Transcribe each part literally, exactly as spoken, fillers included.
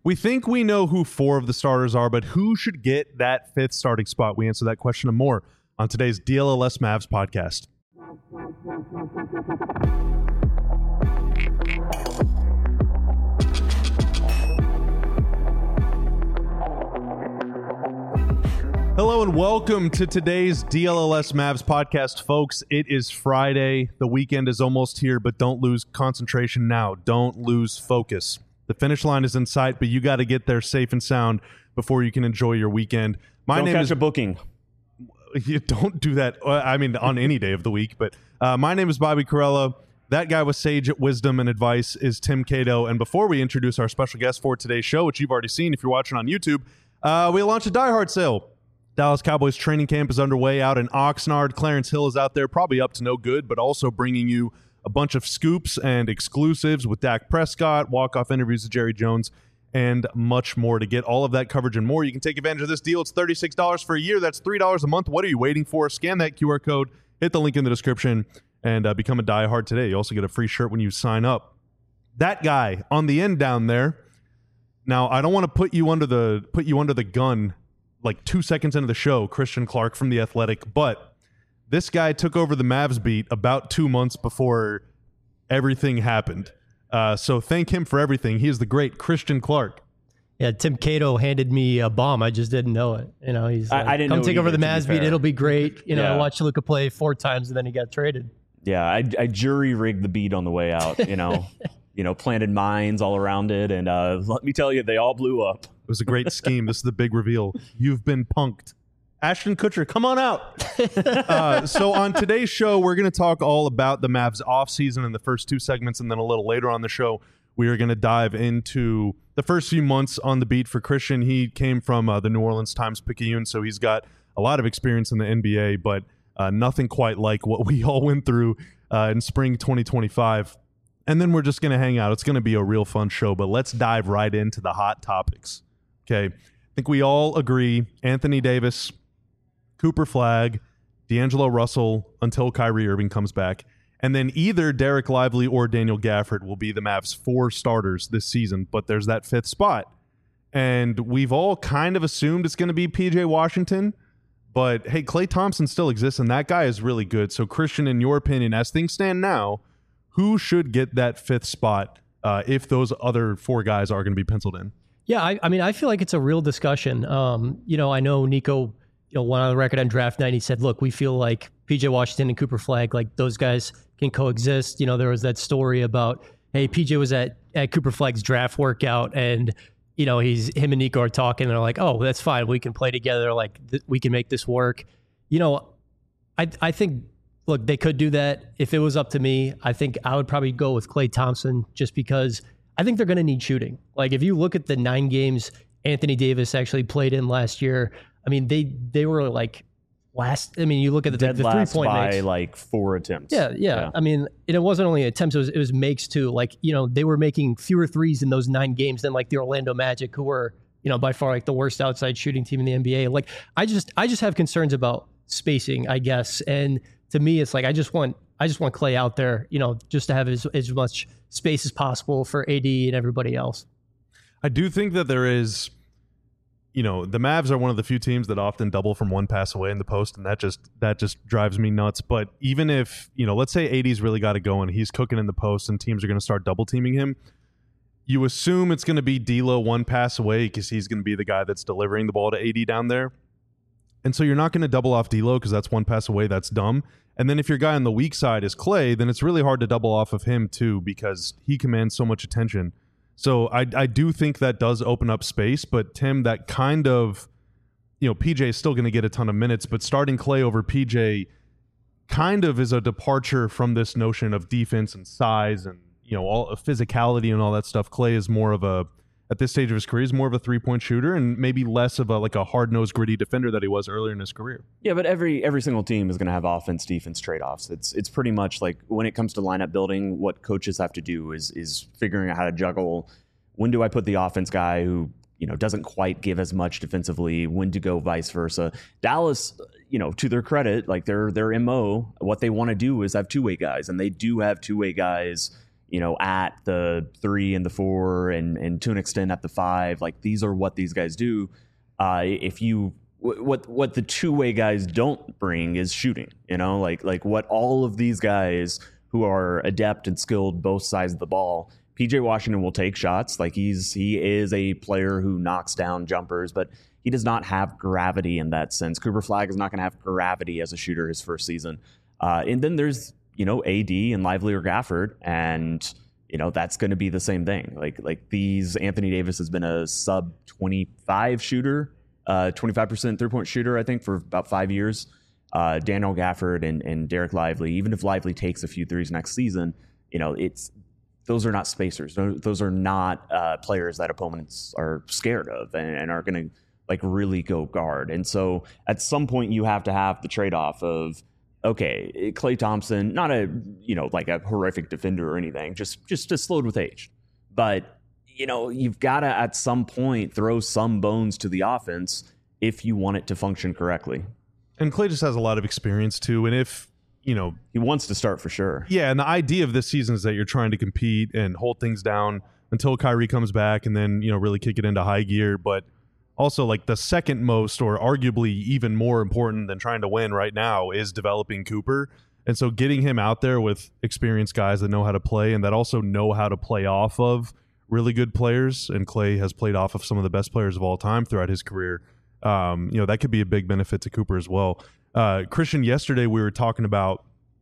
We think we know who four of the starters are, but who should get that fifth starting spot? We answer that question and more on today's D L L S Mavs podcast. Hello and welcome to today's D L L S Mavs podcast, folks. It is Friday. The weekend is almost here, but don't lose concentration now. Don't lose focus. The finish line is in sight, but you got to get there safe and sound before you can enjoy your weekend. My don't name catch is a booking. You don't do that. I mean, on any day of the week. But uh, my name is Bobby Corella. That guy with sage wisdom and advice is Tim Cato. And before we introduce our special guest for today's show, which you've already seen if you're watching on YouTube, uh, we launched a Die Hard sale. Dallas Cowboys training camp is underway out in Oxnard. Clarence Hill is out there, probably up to no good, but also bringing you a bunch of scoops and exclusives with Dak Prescott, walk-off interviews with Jerry Jones, and much more. To get all of that coverage and more, you can take advantage of this deal. It's thirty-six dollars for a year. That's three dollars a month. What are you waiting for? Scan that Q R code, hit the link in the description, and uh, become a diehard today. You also get a free shirt when you sign up. That guy on the end down there. Now, I don't want to put you under the put you under the gun like two seconds into the show, Christian Clark from The Athletic, but this guy took over the Mavs beat about two months before everything happened. Uh, so thank him for everything. He is the great Christian Clark. Yeah, Tim Cato handed me a bomb. I just didn't know it. You know, he's like, I, I didn't come know take either, over the Mavs beat. It'll be great. You know, yeah. I watched Luka play four times and then he got traded. Yeah, I, I jury rigged the beat on the way out. You know, you know, planted mines all around it, and uh, let me tell you, they all blew up. It was a great scheme. This is the big reveal. You've been punked. Ashton Kutcher, come on out. uh, so on today's show, we're going to talk all about the Mavs offseason in the first two segments, and then a little later on the show, we are going to dive into the first few months on the beat for Christian. He came from uh, the New Orleans Times-Picayune, so he's got a lot of experience in the N B A, but uh, nothing quite like what we all went through uh, in spring twenty twenty-five. And then we're just going to hang out. It's going to be a real fun show, but let's dive right into the hot topics. Okay, I think we all agree Anthony Davis, Cooper Flagg, D'Angelo Russell until Kyrie Irving comes back. And then either Derek Lively or Daniel Gafford will be the Mavs' four starters this season, but there's that fifth spot. And we've all kind of assumed it's going to be P J Washington, but hey, Klay Thompson still exists, and that guy is really good. So Christian, in your opinion, as things stand now, who should get that fifth spot uh, if those other four guys are going to be penciled in? Yeah, I, I mean, I feel like it's a real discussion. Um, you know, I know Nico, you know, went on the record on draft night. He said, look, we feel like P J Washington and Cooper Flagg, like those guys can coexist. You know, there was that story about, hey, P J was at, at Cooper Flagg's draft workout and, you know, he's him and Nico are talking and they're like, oh, that's fine. We can play together. Like th- we can make this work. You know, I I think, look, they could do that. If it was up to me, I think I would probably go with Klay Thompson just because I think they're going to need shooting. Like if you look at the nine games Anthony Davis actually played in last year, I mean, they they were like last. I mean, you look at the, Dead the three last point by makes. like four attempts. Yeah, yeah, Yeah. I mean, and it wasn't only attempts; it was it was makes too. Like you know, they were making fewer threes in those nine games than like the Orlando Magic, who were you know by far like the worst outside shooting team in the N B A. Like I just I just have concerns about spacing, I guess. And to me, it's like I just want I just want Klay out there, you know, just to have as as much space as possible for A D and everybody else. I do think that there is, you know, the Mavs are one of the few teams that often double from one pass away in the post, and that just that just drives me nuts. But even if, you know, let's say A D's really got it going, he's cooking in the post, and teams are going to start double teaming him. You assume it's going to be D'Lo one pass away because he's going to be the guy that's delivering the ball to A D down there. And so you're not going to double off D'Lo because that's one pass away. That's dumb. And then if your guy on the weak side is Klay, then it's really hard to double off of him too because he commands so much attention. So I I do think that does open up space. But Tim, that kind of, you know, P J is still going to get a ton of minutes, but starting Klay over P J kind of is a departure from this notion of defense and size and, you know, all physicality and all that stuff. Klay is more of a, at this stage of his career, is more of a three-point shooter and maybe less of a like a hard-nosed, gritty defender that he was earlier in his career. Yeah, but every every single team is going to have offense-defense trade-offs. It's it's pretty much like when it comes to lineup building, what coaches have to do is is figuring out how to juggle. When do I put the offense guy who, you know, doesn't quite give as much defensively? When to go vice versa? Dallas, you know, to their credit, like their their M O, what they want to do is have two-way guys, and they do have two-way guys, you know, at the three and the four, and and to an extent at the five. Like, these are what these guys do. Uh, if you what what the two way guys don't bring is shooting. You know, like like what all of these guys who are adept and skilled both sides of the ball. P J Washington will take shots. Like, he's he is a player who knocks down jumpers, but he does not have gravity in that sense. Cooper Flagg is not going to have gravity as a shooter his first season. Uh, and then there's, you know, A D and Lively or Gafford, and you know that's going to be the same thing. Like like these Anthony Davis has been a sub twenty-five shooter, uh, twenty-five percent three point shooter, I think, for about five years. Uh, Daniel Gafford and and Derek Lively. Even if Lively takes a few threes next season, you know it's. Those are not spacers. Those are not uh, players that opponents are scared of and, and are going to like really go guard. And so at some point you have to have the trade-off of, okay, Klay Thompson, not a, you know, like a horrific defender or anything, just just just slowed with age. But, you know, you've got to at some point throw some bones to the offense if you want it to function correctly. And Klay just has a lot of experience too. And if, you know, he wants to start for sure. Yeah, and the idea of this season is that you're trying to compete and hold things down until Kyrie comes back, and then, you know, really kick it into high gear. But also, like, the second most, or arguably even more important than trying to win right now, is developing Cooper. And so getting him out there with experienced guys that know how to play and that also know how to play off of really good players, and Klay has played off of some of the best players of all time throughout his career, um, you know, that could be a big benefit to Cooper as well. Uh, Christian, yesterday we were talking about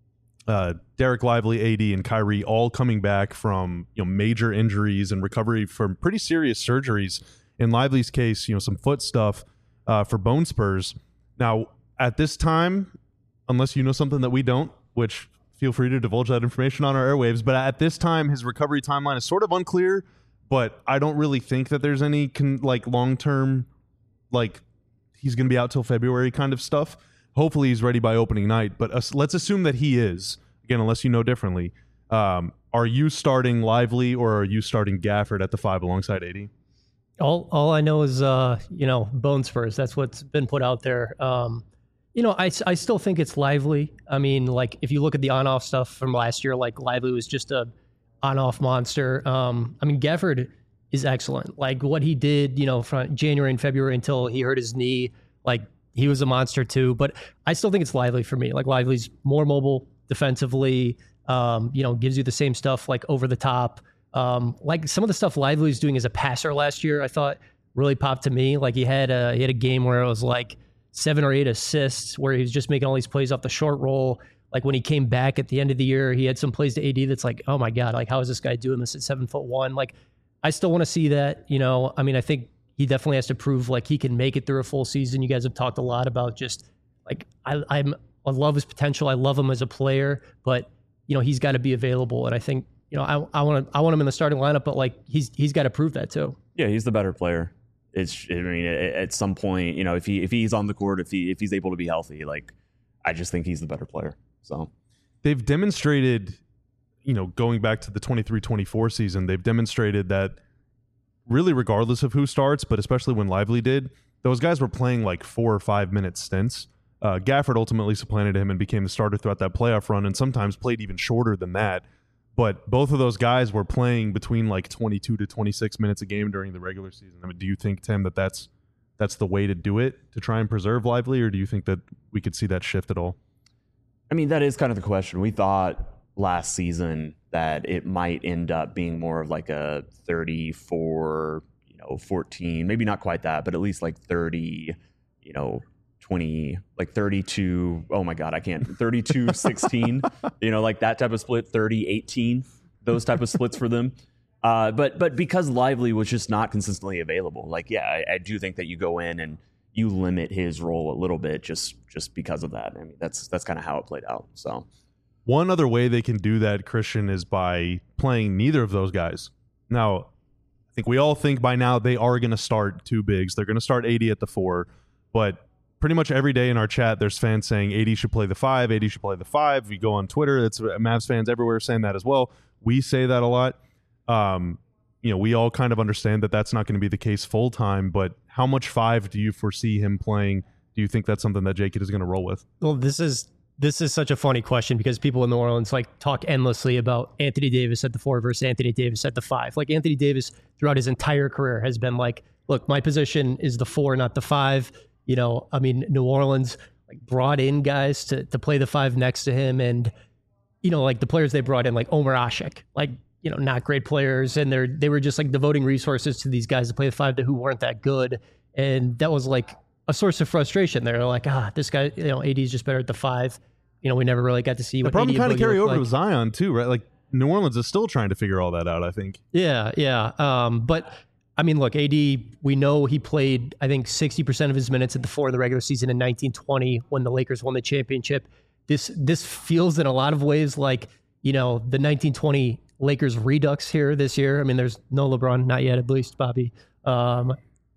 uh, Derek Lively, A D, and Kyrie all coming back from, you know, major injuries and recovery from pretty serious surgeries. In Lively's case, you know, some foot stuff uh, for bone spurs. Now, at this time, unless you know something that we don't, which feel free to divulge that information on our airwaves, but at this time, his recovery timeline is sort of unclear, but I don't really think that there's any con- like long-term, like he's going to be out till February kind of stuff. Hopefully he's ready by opening night, but uh, let's assume that he is, again, unless you know differently. Um, are you starting Lively or are you starting Gafford at the five alongside A D? All all I know is, uh, you know, bone spurs. That's what's been put out there. Um, you know, I, I still think it's Lively. I mean, like, if you look at the on-off stuff from last year, like, Lively was just a on-off monster. Um, I mean, Gafford is excellent. Like, what he did, you know, from January and February until he hurt his knee, like, he was a monster too. But I still think it's Lively for me. Like, Lively's more mobile defensively, um, you know, gives you the same stuff, like, over the top. Um, like, some of the stuff Lively was doing as a passer last year, I thought really popped to me. Like, he had a, he had a game where it was like seven or eight assists where he was just making all these plays off the short roll. Like, when he came back at the end of the year, he had some plays to A D that's like, oh my God, like, how is this guy doing this at seven foot one? Like, I still want to see that, you know. I mean, I think he definitely has to prove like he can make it through a full season. You guys have talked a lot about just like, I, I'm, I love his potential. I love him as a player, but you know, he's got to be available. And I think, you know, I, I want to, I want him in the starting lineup, but like he's, he's got to prove that too. Yeah. He's the better player. It's, I mean, at some point, you know, if he, if he's on the court, if he, if he's able to be healthy, like, I just think he's the better player. So they've demonstrated, you know, going back to the twenty-three twenty-four season, they've demonstrated that really regardless of who starts, but especially when Lively did, those guys were playing like four or five minute stints. Uh, Gafford ultimately supplanted him and became the starter throughout that playoff run, and sometimes played even shorter than that. But both of those guys were playing between like twenty-two to twenty-six minutes a game during the regular season. I mean, do you think, Tim, that that's, that's the way to do it to try and preserve Lively, or do you think that we could see that shift at all? I mean, that is kind of the question. We thought last season that it might end up being more of like a thirty-four, you know, fourteen, maybe not quite that, but at least like thirty, you know, twenty, like thirty-two. Oh my God, I can't. thirty-two sixteen, you know, like that type of split, thirty eighteen, those type of splits for them. Uh, but but because Lively was just not consistently available, like, yeah, I, I do think that you go in and you limit his role a little bit just just because of that. I mean, that's that's kind of how it played out. So one other way they can do that, Christian, is by playing neither of those guys. Now, I think we all think by now they are going to start two bigs. They're going to start A D at the four, but pretty much every day in our chat, there's fans saying A D should play the five, A D should play the five. We go on Twitter, that's Mavs fans everywhere saying that as well. We say that a lot. Um, you know, we all kind of understand that that's not going to be the case full time, but how much five do you foresee him playing? Do you think that's something that Jake is going to roll with? Well, this is this is such a funny question because people in New Orleans like talk endlessly about Anthony Davis at the four versus Anthony Davis at the five. Like Anthony Davis throughout his entire career has been like, look, my position is the four, not the five. You know, I mean, New Orleans like brought in guys to to play the five next to him, and you know, like the players they brought in, like Omer Ashik, like you know, not great players, and they're they were just like devoting resources to these guys to play the five that who weren't that good, and that was like a source of frustration. They're like, ah, this guy, you know, A D is just better at the five. You know, we never really got to see the what problem A D kind of carry over like. to Zion too, right? Like New Orleans is still trying to figure all that out, I think. Yeah, yeah. Um, but I mean, look, A D, we know he played, I think, sixty percent of his minutes at the four in the regular season in nineteen twenty when the Lakers won the championship. This this feels in a lot of ways like, you know, the nineteen twenty Lakers redux here this year. I mean, there's no LeBron, not yet, at least, Bobby. Um,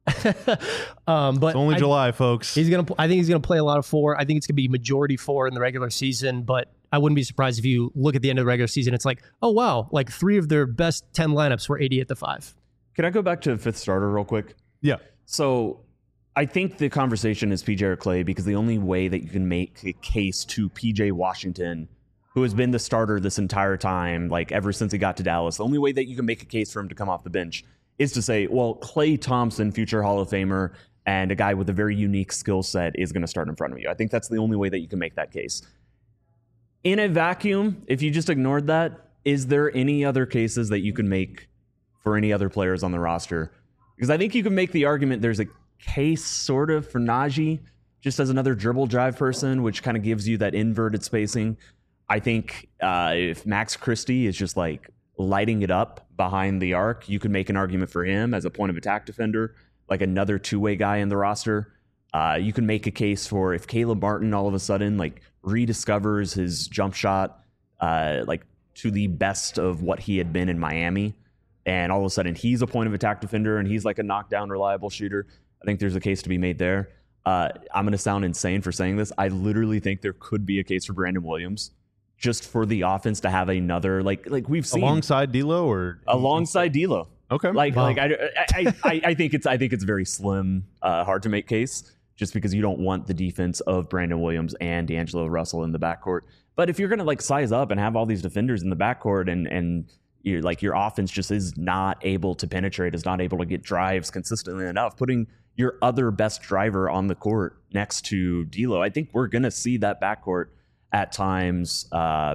um, but It's only I, July, folks. He's gonna. I think he's gonna play a lot of four. I think it's gonna be majority four in the regular season. But I wouldn't be surprised if you look at the end of the regular season. It's like, oh wow, like three of their best ten lineups were A D at the five. Can I go back to fifth starter real quick? Yeah. So I think the conversation is P J or Clay, because the only way that you can make a case to P J Washington, who has been the starter this entire time, like ever since he got to Dallas, the only way that you can make a case for him to come off the bench is to say, well, Clay Thompson, future Hall of Famer, and a guy with a very unique skill set is going to start in front of you. I think that's the only way that you can make that case. In a vacuum, if you just ignored that, is there any other cases that you can make for any other players on the roster? Because I think you can make the argument there's a case sort of for Najee, just as another dribble drive person, which kind of gives you that inverted spacing. I think uh, if Max Christie is just like lighting it up behind the arc, you could make an argument for him as a point of attack defender, like another two-way guy in the roster. Uh, you can make a case for if Caleb Martin all of a sudden like rediscovers his jump shot uh, like to the best of what he had been in Miami, and all of a sudden he's a point of attack defender and he's like a knockdown reliable shooter. I think there's a case to be made there. Uh, I'm going to sound insane for saying this. I literally think there could be a case for Brandon Williams, just for the offense to have another, like like we've seen Alongside D'Lo or alongside D'Lo. Okay. Like Wow. like I, I I I think it's I think it's very slim, uh, hard to make case, just because you don't want the defense of Brandon Williams and D'Angelo Russell in the backcourt. But if you're gonna like size up and have all these defenders in the backcourt, and and you're like your offense just is not able to penetrate, is not able to get drives consistently enough, putting your other best driver on the court next to D'Lo, I think we're gonna see that backcourt at times. uh,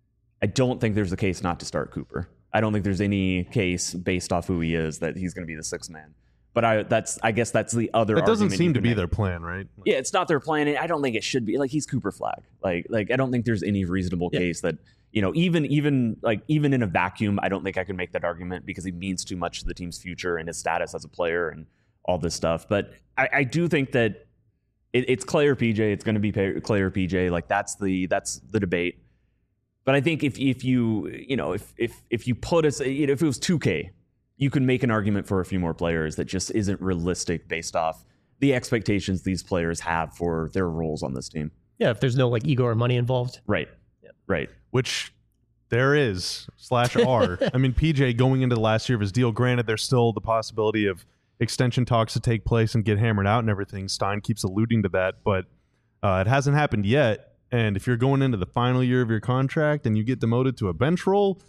I don't think there's a case not to start Cooper. I don't think there's any case based off who he is that he's going to be the sixth man. But I that's I guess that's the other. That doesn't argument seem you to can be make. their plan, right? Yeah, it's not their plan, and I don't think it should be. Like he's Cooper Flag. Like like I don't think there's any reasonable Yeah. case that, you know, even even like even in a vacuum, I don't think I can make that argument because he means too much to the team's future and his status as a player and all this stuff. But I, I do think that it, it's Clay or P J. It's going to be Clay or P J. Like that's the that's the debate. But I think if if you you know if if if you put us, you know, if it was two K, you can make an argument for a few more players that just isn't realistic based off the expectations these players have for their roles on this team. Yeah, if there's no like ego or money involved. Right. Yeah. Right. Which there is slash R. I mean, P J going into the last year of his deal, granted, there's still the possibility of extension talks to take place and get hammered out and everything. Stein keeps alluding to that, but uh, it hasn't happened yet. And if you're going into the final year of your contract and you get demoted to a bench role,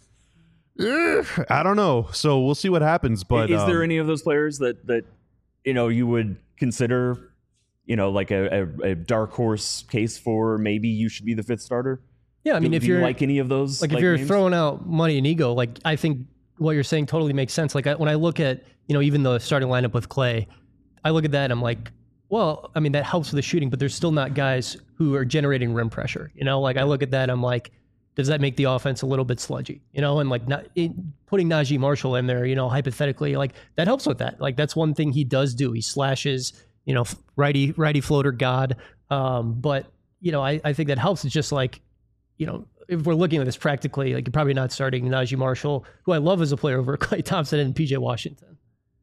eh, I don't know. So we'll see what happens. But is um, there any of those players that that you know you would consider, you know, like a, a, a dark horse case for maybe you should be the fifth starter? Yeah, I mean, do, if do you're you like any of those, like, like if you're names? throwing out money and ego, like I think what you're saying totally makes sense. Like I, when I look at, you know, even the starting lineup with Clay, I look at that and I'm like, well, I mean, that helps with the shooting, but there's still not guys who are generating rim pressure. You know, like I look at that, I'm like, does that make the offense a little bit sludgy? You know, and like not it, putting Najee Marshall in there, you know, hypothetically, like that helps with that. Like that's one thing he does do. He slashes, you know, righty righty floater god. Um, but you know, I, I think that helps. It's just like, you know, if we're looking at this practically, like you're probably not starting Najee Marshall, who I love as a player, over Klay Thompson and P J Washington.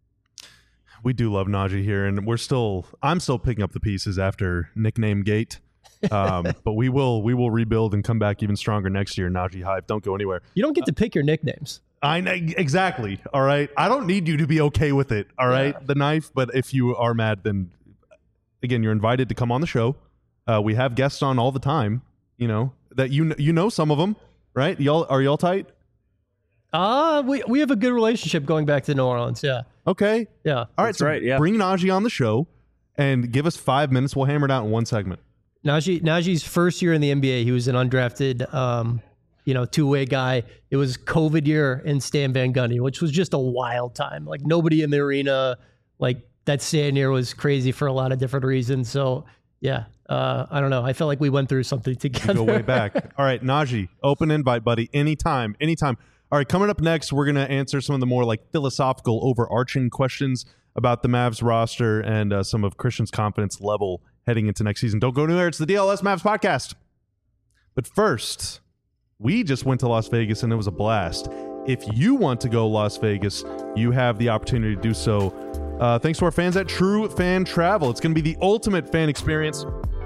we do love Najee here, and we're still I'm still picking up the pieces after nickname gate. Um, but we will we will rebuild and come back even stronger next year. Najee hype, don't go anywhere. You don't get to pick your nicknames. I know exactly. All right, I don't need you to be okay with it. All right, Yeah. the knife. But if you are mad, then again, you're invited to come on the show. Uh, we have guests on all the time. You know that you you know some of them, right? Y'all are y'all tight? Uh, we we have a good relationship going back to New Orleans. Yeah. Okay. Yeah. All right. That's So right, yeah. bring Najee on the show and give us five minutes. We'll hammer it out in one segment. Najee Najee's first year in the N B A, he was an undrafted, um, you know, two-way guy. It was COVID year in Stan Van Gundy, which was just a wild time. Like nobody in the arena. Like that Stan year was crazy for a lot of different reasons. So yeah, uh, I don't know. I felt like we went through something together. Go way back. All right, Najee, open invite, buddy. Anytime, anytime. All right, coming up next, we're going to answer some of the more like philosophical, overarching questions about the Mavs roster and uh, some of Christian's confidence level heading into next season. Don't go anywhere. It's the D L S Mavs podcast. But first, we just went to Las Vegas and it was a blast. If you want to go Las Vegas, you have the opportunity to do so. Uh, thanks to our fans at True Fan Travel. It's going to be the ultimate fan experience.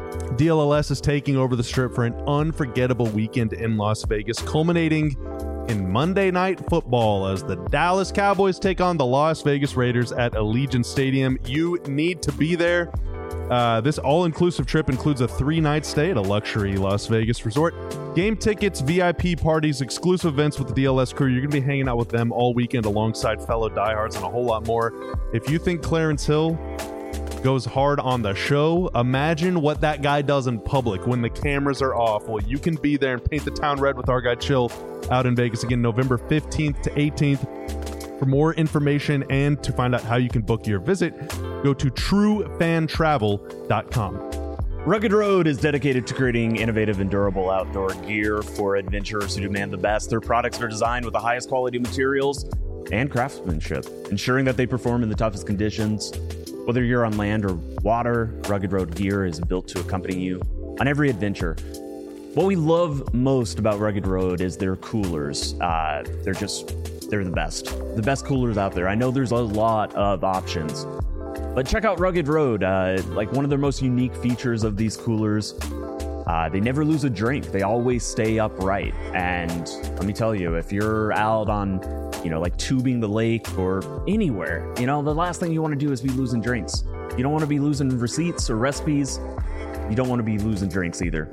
D L L S is taking over the Strip for an unforgettable weekend in Las Vegas, culminating in Monday Night Football as the Dallas Cowboys take on the Las Vegas Raiders at Allegiant Stadium. You need to be there. Uh, this all-inclusive trip includes a three-night stay at a luxury Las Vegas resort, game tickets, V I P parties, exclusive events with the D L S crew. You're going to be hanging out with them all weekend alongside fellow diehards and a whole lot more. If you think Clarence Hill goes hard on the show, imagine what that guy does in public when the cameras are off. Well, you can be there and paint the town red with our guy Chill out in Vegas again, November fifteenth to eighteenth. For more information and to find out how you can book your visit, go to true fan travel dot com. Rugged Road is dedicated to creating innovative and durable outdoor gear for adventurers who demand the best. Their products are designed with the highest quality materials and craftsmanship, ensuring that they perform in the toughest conditions. Whether you're on land or water, Rugged Road gear is built to accompany you on every adventure. What we love most about Rugged Road is their coolers. Uh, they're just, they're the best. The best coolers out there. I know there's a lot of options, but check out Rugged Road. Uh, like one of their most unique features of these coolers, uh, they never lose a drink. They always stay upright. And let me tell you, if you're out on, you know, like tubing the lake or anywhere, you know, the last thing you want to do is be losing drinks. You don't want to be losing receipts or recipes. You don't want to be losing drinks either.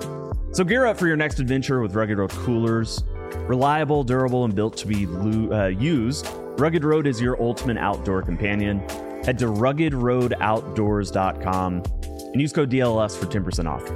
So gear up for your next adventure with Rugged Road coolers. Reliable, durable, and built to be lo- uh, used, Rugged Road is your ultimate outdoor companion. Head to rugged road outdoors dot com and use code D L S for ten percent off.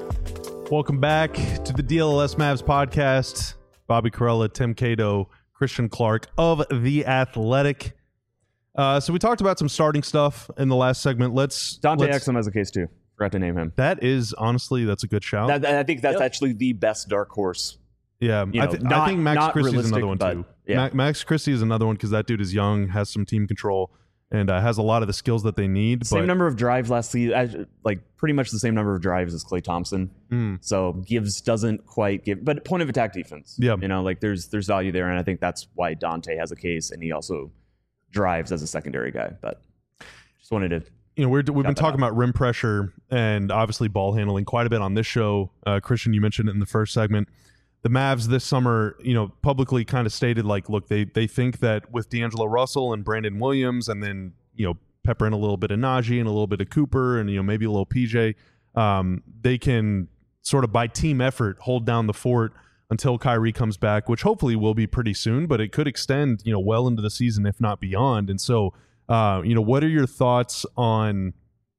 Welcome back to the D L S Mavs podcast. Bobby Carella, Tim Cato, Christian Clark of The Athletic. Uh, so we talked about some starting stuff in the last segment. Let's Dante let's, Exum has a case too. Forgot to name him. That is honestly, that's a good shout. That, I think that's Yep. actually the best dark horse. yeah, you I, know, th- not- I think Max not Christie is another one realistic, too. but, yeah. Ma- Max Christie is another one because that dude is young, has some team control, and uh, has a lot of the skills that they need. Same but, number of drives last season, uh, like pretty much the same number of drives as Klay Thompson. Mm. So gives doesn't quite give, but point of attack defense. Yeah. you know, like there's there's value there, and I think that's why Dante has a case, and he also drives as a secondary guy. But just wanted to. You know, we're, we've been that talking out. about rim pressure and obviously ball handling quite a bit on this show. Uh, Christian, you mentioned it in the first segment. The Mavs this summer, you know, publicly kind of stated like, look, they they think that with D'Angelo Russell and Brandon Williams, and then you know pepper in a little bit of Najee and a little bit of Cooper, and you know maybe a little P J, um, they can sort of by team effort hold down the fort until Kyrie comes back, which hopefully will be pretty soon, but it could extend you know well into the season if not beyond. And so. Uh, you know, what are your thoughts on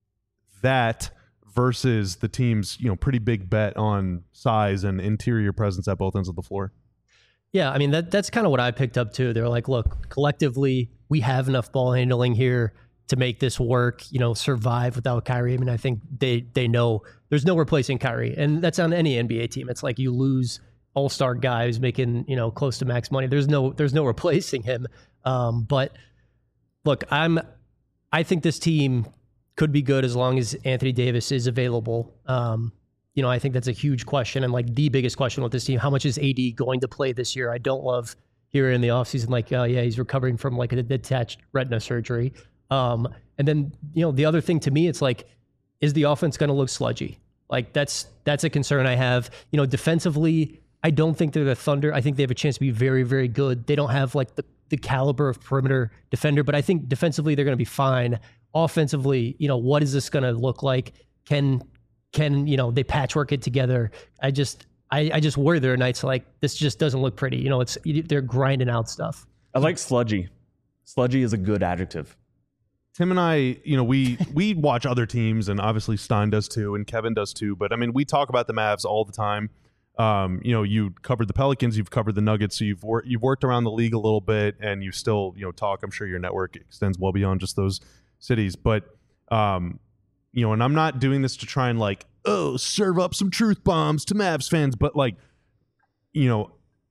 that versus the team's, you know, pretty big bet on size and interior presence at both ends of the floor? Yeah, I mean, that that's kind of what I picked up too. They're like, look, collectively, we have enough ball handling here to make this work, you know, survive without Kyrie. I mean, I think they they know there's no replacing Kyrie. And that's on any N B A team. It's like you lose all-star guy who's making, you know, close to max money. There's no there's no replacing him. Um, but look, I'm I think this team could be good as long as Anthony Davis is available. Um, you know, I think that's a huge question, and like the biggest question with this team, how much is A D going to play this year? I don't love hearing in the offseason like, oh yeah, he's recovering from like a detached retina surgery. Um, and then, you know, the other thing to me, it's like, is the offense going to look sludgy? Like that's that's a concern I have. You know, defensively, I don't think they're the Thunder. I think they have a chance to be very, very good. They don't have like the the caliber of perimeter defender, but I think defensively they're going to be fine. Offensively, you know, what is this going to look like? Can can, you know, they patchwork it together. I just, I, I just worry there are nights like this just doesn't look pretty. You know, it's they're grinding out stuff. I like sludgy. Sludgy is a good adjective. Tim and I, you know, we we watch other teams, and obviously Stein does too, and Kevin does too. But I mean, we talk about the Mavs all the time. Um, you know, you covered the Pelicans, you've covered the Nuggets, so you've wor- you've worked around the league a little bit, and you still, you know, talk. I'm sure your network extends well beyond just those cities. But um, you know, and I'm not doing this to try and like, oh, serve up some truth bombs to Mavs fans, but like, you know.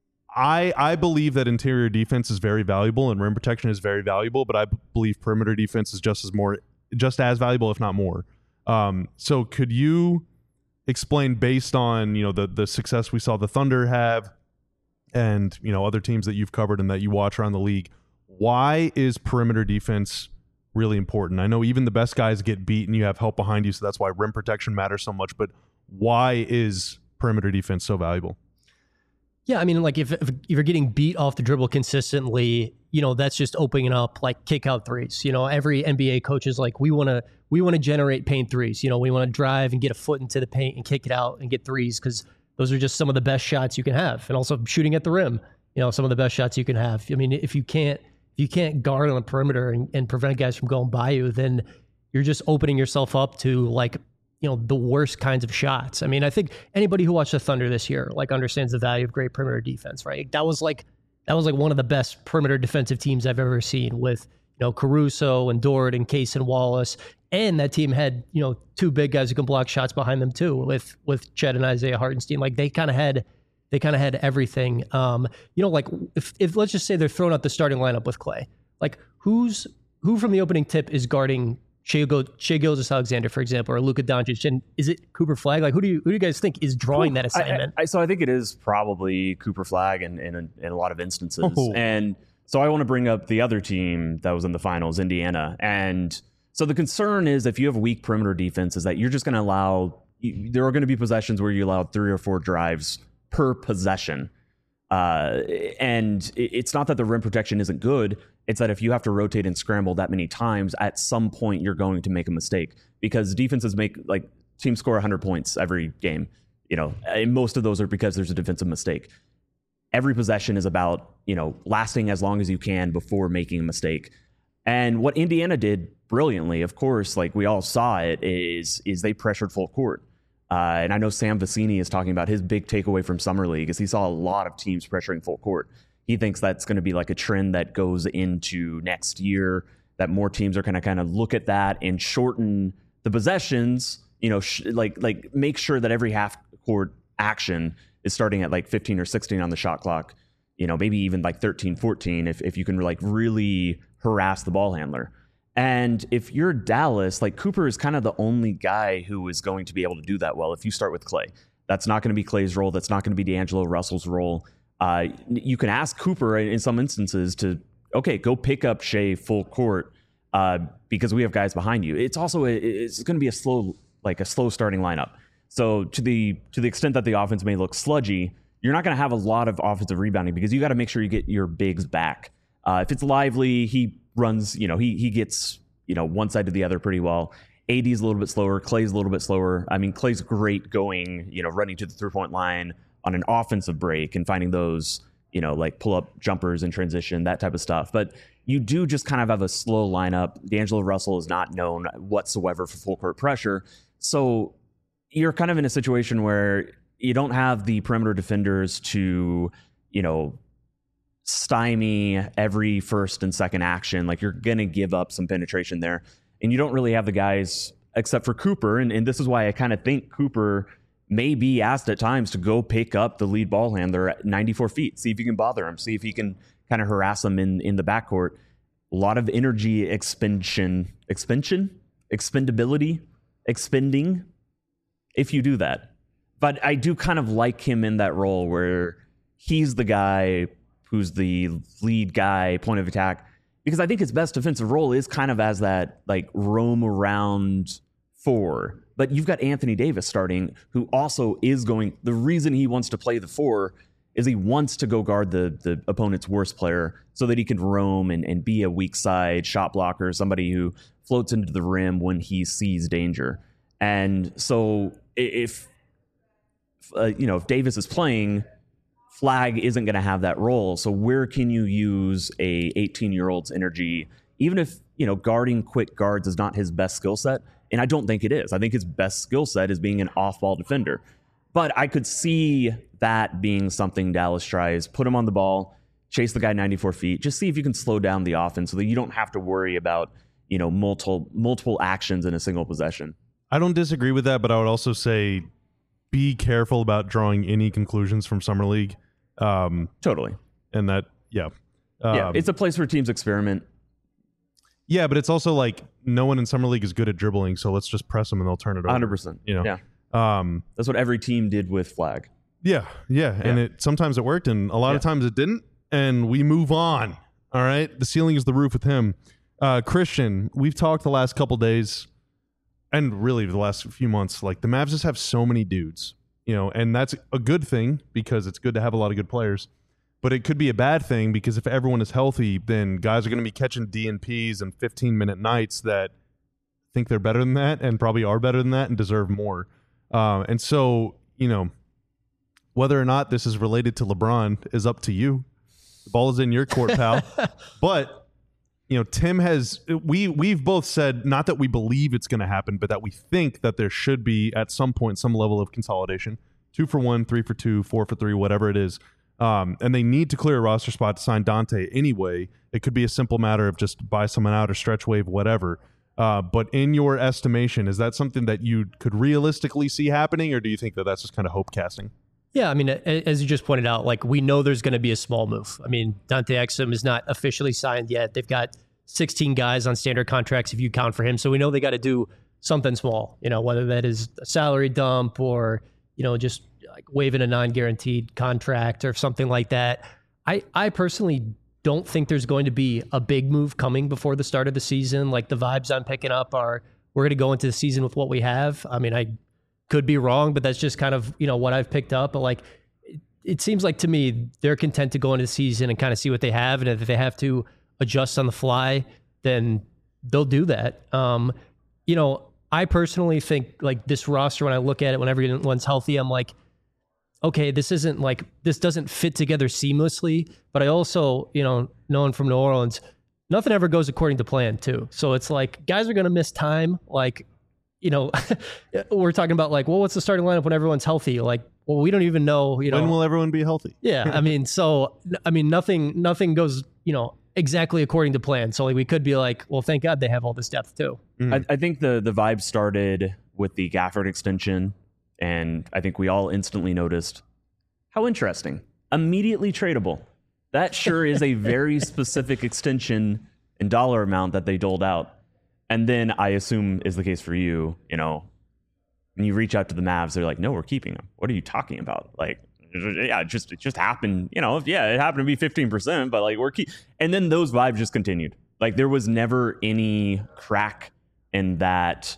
I, I believe that interior defense is very valuable and rim protection is very valuable, but I b- believe perimeter defense is just as more, just as valuable, if not more. Um, so could you explain, based on, you know, the the success we saw the Thunder have, and, you know, other teams that you've covered and that you watch around the league, why is perimeter defense really important? I know even the best guys get beat and you have help behind you, so that's why rim protection matters so much. But why is perimeter defense so valuable? Yeah, I mean, like if, if you're getting beat off the dribble consistently, you know, that's just opening up like kick out threes. You know, every N B A coach is like, we want to we want to generate paint threes. You know, we want to drive and get a foot into the paint and kick it out and get threes, because those are just some of the best shots you can have. And also shooting at the rim, you know, some of the best shots you can have. I mean, if you can't if you can't guard on the perimeter and, and prevent guys from going by you, then you're just opening yourself up to like, you know, the worst kinds of shots. I mean, I think anybody who watched the Thunder this year, like, understands the value of great perimeter defense, right? That was like, that was like one of the best perimeter defensive teams I've ever seen, with, you know, Caruso and Dort and Case and Wallace. And that team had, you know, two big guys who can block shots behind them too, with, with Chet and Isaiah Hartenstein. Like, they kind of had, they kind of had everything. Um, you know, like if, if let's just say they're throwing out the starting lineup with Clay, like who's, who from the opening tip is guarding Shai Gilgeous-Alexander, for example, or Luka Doncic, and is it Cooper Flagg? Like, who do you who do you guys think is drawing that assignment? I, I, so I think it is probably Cooper Flagg in, in, in a lot of instances. Oh. And so I want to bring up the other team that was in the finals, Indiana. And so the concern is, if you have weak perimeter defense, is that you're just going to allow, you, there are going to be possessions where you allow three or four drives per possession. Uh, and it's not that the rim protection isn't good. It's that if you have to rotate and scramble that many times, at some point you're going to make a mistake, because defenses make, like, teams score one hundred points every game. You know, and most of those are because there's a defensive mistake. Every possession is about, you know, lasting as long as you can before making a mistake. And what Indiana did brilliantly, of course, like we all saw it, is is they pressured full court. Uh, and I know Sam Vecini is talking about his big takeaway from Summer League is he saw a lot of teams pressuring full court. He thinks that's going to be like a trend that goes into next year, that more teams are going to kind of look at that and shorten the possessions, you know, sh- like like make sure that every half court action is starting at like fifteen or sixteen on the shot clock, you know, maybe even like thirteen, fourteen, if, if you can like really harass the ball handler. And if you're Dallas, like, Cooper is kind of the only guy who is going to be able to do that well if you start with Clay. That's not going to be Clay's role. That's not going to be D'Angelo Russell's role. Uh, you can ask Cooper in some instances to, okay, go pick up Shai full court uh, because we have guys behind you. It's also, a, it's going to be a slow, like a slow starting lineup. So to the to the extent that the offense may look sludgy, you're not going to have a lot of offensive rebounding because you got to make sure you get your bigs back. Uh, if it's Lively, he runs, you know, he he gets, you know, one side to the other pretty well. A D's a little bit slower. Clay's a little bit slower. I mean, Clay's great going, you know, running to the three-point line on an offensive break and finding those, you know, like pull-up jumpers in transition, that type of stuff. But you do just kind of have a slow lineup. D'Angelo Russell is not known whatsoever for full court pressure. So you're kind of in a situation where you don't have the perimeter defenders to, you know, stymie every first and second action. Like, you're going to give up some penetration there. And you don't really have the guys except for Cooper. And, and this is why I kind of think Cooper may be asked at times to go pick up the lead ball handler at ninety-four feet. See if you can bother him. See if he can kind of harass him in, in the backcourt. A lot of energy expansion, expansion, expendability, expending if you do that. But I do kind of like him in that role where he's the guy who's the lead guy, point of attack, because I think his best defensive role is kind of as that, like, roam around four. But you've got Anthony Davis starting, who also is going, the reason he wants to play the four is he wants to go guard the the opponent's worst player so that he can roam and, and be a weak side shot blocker, somebody who floats into the rim when he sees danger. And so if uh, you know if Davis is playing, Flag isn't going to have that role. So where can you use a eighteen-year-old's energy, even if you know guarding quick guards is not his best skill set? And I don't think it is. I think his best skill set is being an off-ball defender. But I could see that being something Dallas tries. Put him on the ball, chase the guy ninety-four feet. Just see if you can slow down the offense so that you don't have to worry about, you know, multiple multiple actions in a single possession. I don't disagree with that, but I would also say be careful about drawing any conclusions from Summer League. Um, totally. And that, yeah. Um, yeah, it's a place where teams experiment. Yeah, but it's also like no one in Summer League is good at dribbling, so let's just press them and they'll turn it over. one hundred percent. You know? Yeah. Um, That's what every team did with Flag. Yeah, yeah, and Yeah. it sometimes it worked, and a lot Yeah. of times it didn't, and we move on. All right, the ceiling is the roof with him. Uh, Christian, we've talked the last couple days, and really the last few months. Like the Mavs just have so many dudes, you know, and that's a good thing because it's good to have a lot of good players. But it could be a bad thing because if everyone is healthy, then guys are going to be catching D N Ps and fifteen minute nights that think they're better than that and probably are better than that and deserve more. Uh, and so, you know, whether or not this is related to LeBron is up to you. The ball is in your court, pal. But, you know, Tim has, we, we've both said, not that we believe it's going to happen, but that we think that there should be at some point some level of consolidation. Two for one, three for two, four for three, whatever it is. Um, and they need to clear a roster spot to sign Dante anyway. It could be a simple matter of just buy someone out or stretch wave, whatever. Uh, but in your estimation, is that something that you could realistically see happening, or do you think that that's just kind of hope casting? Yeah, I mean, as you just pointed out, like we know there's going to be a small move. I mean, Dante Exum is not officially signed yet. They've got sixteen guys on standard contracts if you count for him. So we know they got to do something small, you know, whether that is a salary dump or, you know, just like waiving a non-guaranteed contract or something like that. I, I personally don't think there's going to be a big move coming before the start of the season. Like the vibes I'm picking up are we're going to go into the season with what we have. I mean, I could be wrong, but that's just kind of, you know, what I've picked up. But like, it, it seems like to me, they're content to go into the season and kind of see what they have. And if they have to adjust on the fly, then they'll do that. Um, you know, I personally think like this roster, when I look at it, when everyone's healthy, I'm like, okay, this isn't like, this doesn't fit together seamlessly, but I also, you know, knowing from New Orleans, nothing ever goes according to plan too. So it's like, guys are going to miss time. Like, you know, we're talking about like, well, what's the starting lineup when everyone's healthy? Like, well, we don't even know, you know. When will everyone be healthy? Yeah. I mean, so, I mean, nothing, nothing goes, you know, exactly according to plan. So like, we could be like, well, thank God they have all this depth too. Mm. I, I think the, the vibe started with the Gafford extension. And I think we all instantly noticed how interesting. Immediately tradable. That sure is a very specific extension and dollar amount that they doled out. And then I assume is the case for you, you know, when you reach out to the Mavs, they're like, no, we're keeping them. What are you talking about? Like, yeah, it just, it just happened, you know, yeah, it happened to be fifteen percent, but like we're keep. And then those vibes just continued. Like there was never any crack in that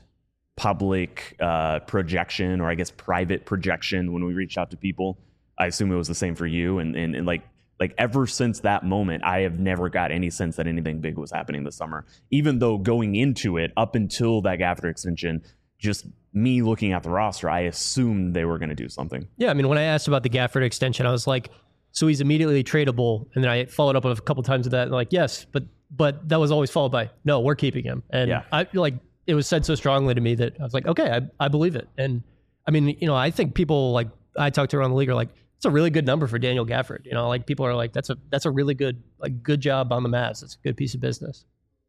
public uh, projection, or I guess private projection when we reached out to people. I assume it was the same for you. And, and, and like, like ever since that moment, I have never got any sense that anything big was happening this summer, even though going into it up until that Gafford extension, just me looking at the roster, I assumed they were going to do something. Yeah. I mean, when I asked about the Gafford extension, I was like, so he's immediately tradable. And then I followed up a couple times with that. And like, yes, but, but that was always followed by, no, we're keeping him. And yeah. I feel like it was said so strongly to me that I was like, okay, I, I believe it. And I mean, you know, I think people like I talked to around the league are like, it's a really good number for Daniel Gafford. You know, like people are like, that's a that's a really good like good job on the Mavs. It's a good piece of business.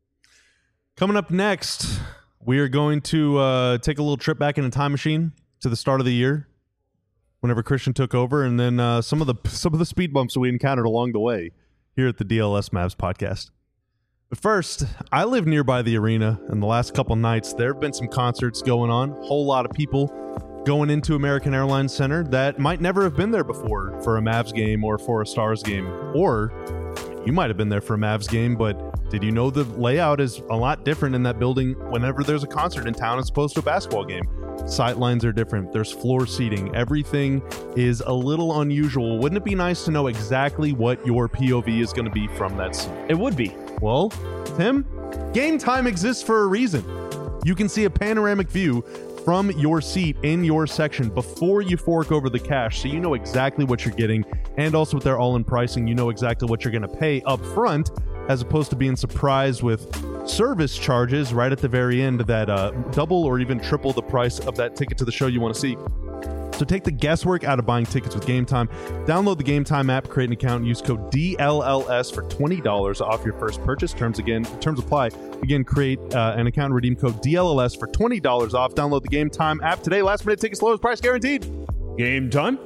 Coming up next, we are going to uh, take a little trip back in a time machine to the start of the year, whenever Christian took over, and then uh, some of the some of the speed bumps we encountered along the way here at the D L S Mavs podcast. But first, I live nearby the arena, and the last couple nights there have been some concerts going on. A whole lot of people going into American Airlines Center that might never have been there before for a Mavs game or for a Stars game. Or you might have been there for a Mavs game, but did you know the layout is a lot different in that building whenever there's a concert in town as opposed to a basketball game? Sight lines are different. There's floor seating. Everything is a little unusual. Wouldn't it be nice to know exactly what your P O V is going to be from that scene? It would be. Well, Tim, Game Time exists for a reason. You can see a panoramic view from your seat in your section before you fork over the cash, so you know exactly what you're getting, and also with their all-in pricing, you know exactly what you're going to pay up front, as opposed to being surprised with service charges right at the very end that uh, double or even triple the price of that ticket to the show you want to see. So take the guesswork out of buying tickets with Game Time. Download the Game Time app, create an account, and use code D L L S for twenty dollars off your first purchase. Terms again, terms apply. Again, create uh, an account and redeem code D L L S for twenty dollars off. Download the Game Time app today. Last minute tickets, lowest price guaranteed. Game time.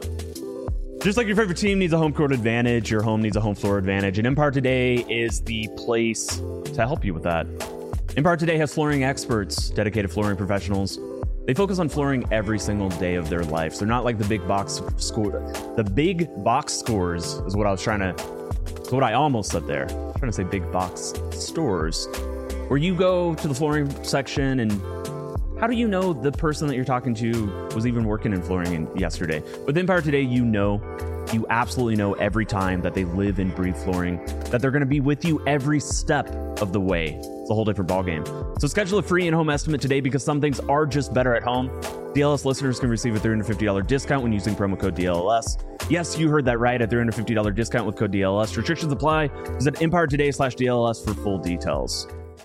Just like your favorite team needs a home court advantage, your home needs a home floor advantage, and Empire Today is the place to help you with that. Empire Today has flooring experts, dedicated flooring professionals. They focus on flooring every single day of their lives. They're not like the big box score. The big box scores is what I was trying to, is what I almost said there. I'm trying to say big box stores, where you go to the flooring section and how do you know the person that you're talking to was even working in flooring in yesterday? With Empire Today, you know, you absolutely know every time that they live and breathe flooring, that they're going to be with you every step of the way. It's a whole different ballgame. So schedule a free in-home estimate today, because some things are just better at home. D L S listeners can receive a three hundred fifty dollars discount when using promo code D L L S. Yes, you heard that right, a three hundred fifty dollars discount with code D L L S. Restrictions apply. Visit Empire Today slash D L L S for full details.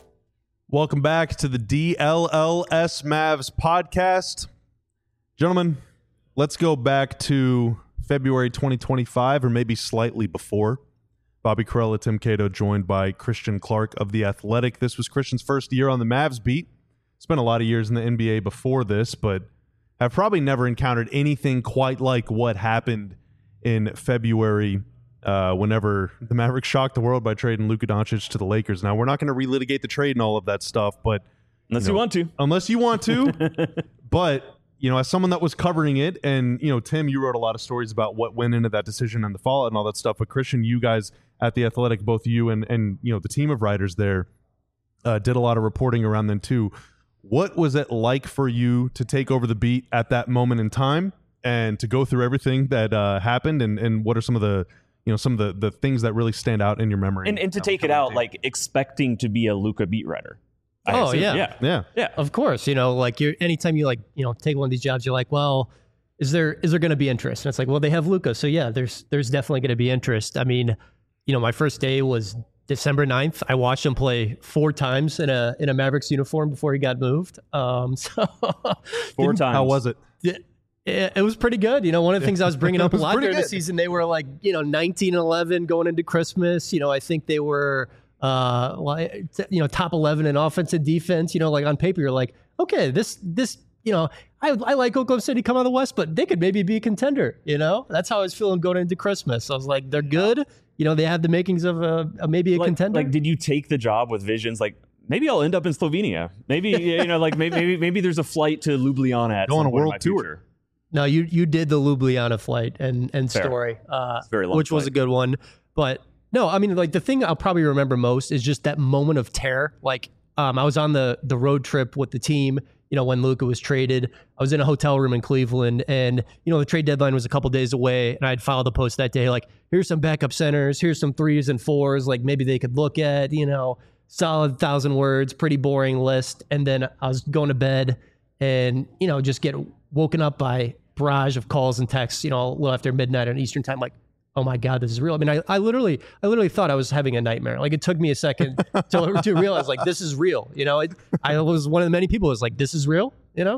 Welcome back to the D L L S Mavs podcast. Gentlemen, let's go back to February twenty twenty-five, or maybe slightly before. Bobby Karalla, Tim Cato, joined by Christian Clark of The Athletic. This was Christian's first year on the Mavs beat. Spent a lot of years in the N B A before this, but have probably never encountered anything quite like what happened in February uh, whenever the Mavericks shocked the world by trading Luka Doncic to the Lakers. Now, we're not going to relitigate the trade and all of that stuff, but Unless you, you know, want want to. Unless you want to. But, you know, as someone that was covering it, and, you know, Tim, you wrote a lot of stories about what went into that decision and the fallout and all that stuff. But Christian, you guys at The Athletic, both you and, and you know, the team of writers there uh, did a lot of reporting around then too. What was it like for you to take over the beat at that moment in time and to go through everything that uh, happened? And, and what are some of the, you know, some of the, the things that really stand out in your memory? And, and to take it out, like expecting to be a Luka beat writer. I Oh, assume. yeah. yeah. Yeah. Yeah. Of course, you know, like you're anytime you like, you know, take one of these jobs, you're like, well, is there is there going to be interest? And it's like, well, they have Luka, so yeah, there's there's definitely going to be interest. I mean, you know, my first day was December ninth. I watched him play four times in a in a Mavericks uniform before he got moved. Um, so Four times. How was it? it, it was pretty good. You know, one of the things I was bringing up a was lot pretty during the good. season, they were like, you know, nineteen and eleven going into Christmas. You know, I think they were, uh, like, you know, top eleven in offense and defense. You know, like on paper, you're like, okay, this, this, you know, I, I like Oklahoma City come out of the West, but they could maybe be a contender. You know, that's how I was feeling going into Christmas. I was like, they're good. You know, they have the makings of a, a maybe a like, contender. Like, did you take the job with visions like, maybe I'll end up in Slovenia? Maybe, you know, like maybe, maybe maybe there's a flight to Ljubljana at Go on some a point in world my tour. future. No, you you did the Ljubljana flight and and Fair. story, uh, very long which was flight. a good one. But no, I mean, like the thing I'll probably remember most is just that moment of terror. Like um, I was on the the road trip with the team. You know, when Luka was traded, I was in a hotel room in Cleveland, and you know the trade deadline was a couple days away, and I'd filed a post that day like, here's some backup centers, here's some threes and fours, like maybe they could look at. You know, solid thousand words, pretty boring list, and then I was going to bed, and you know, just get woken up by barrage of calls and texts, you know, a little after midnight on Eastern time, like, oh my God, this is real. I mean, I, I literally, I literally thought I was having a nightmare. Like it took me a second to, to realize like, this is real. You know, it, I was one of the many people who was like, this is real, you know?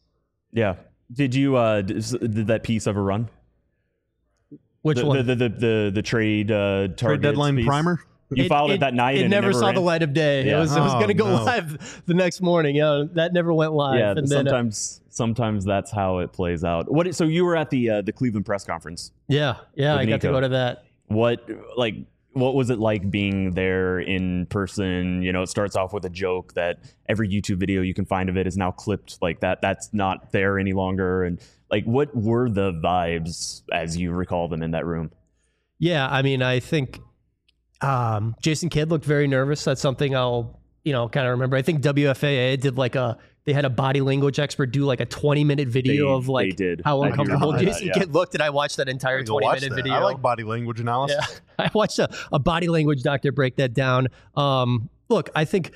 Yeah. Did you, uh, did, did that piece ever run? Which the, one? The, the, the, the, the trade, uh, Trade targets deadline piece? primer? You filed it, that night It and never, it never saw ran? the light of day. Yeah. It was, it was Oh, going to go no. live the next morning. You know, that never went live. Yeah. and then, uh, sometimes, sometimes that's how it plays out. What, so you were at the, uh, the Cleveland press conference. yeah, yeah, With I got to Nico. go to that. What, like, what was it like being there in person? You know, it starts off with a joke that every YouTube video you can find of it is now clipped like that. That's not there any longer. And like, what were the vibes as you recall them in that room? Yeah, I mean, I think um, Jason Kidd looked very nervous. That's something I'll, you know, kind of remember. I think W F A A did like a, they had a body language expert do like a twenty minute video They- of like they did. how I do uncomfortable remember that, Jason yeah. Kidd looked, and I watched that entire Go twenty watch minute that. video. I like body language analysis. Yeah, I watched a, a body language doctor break that down. Um, look, I think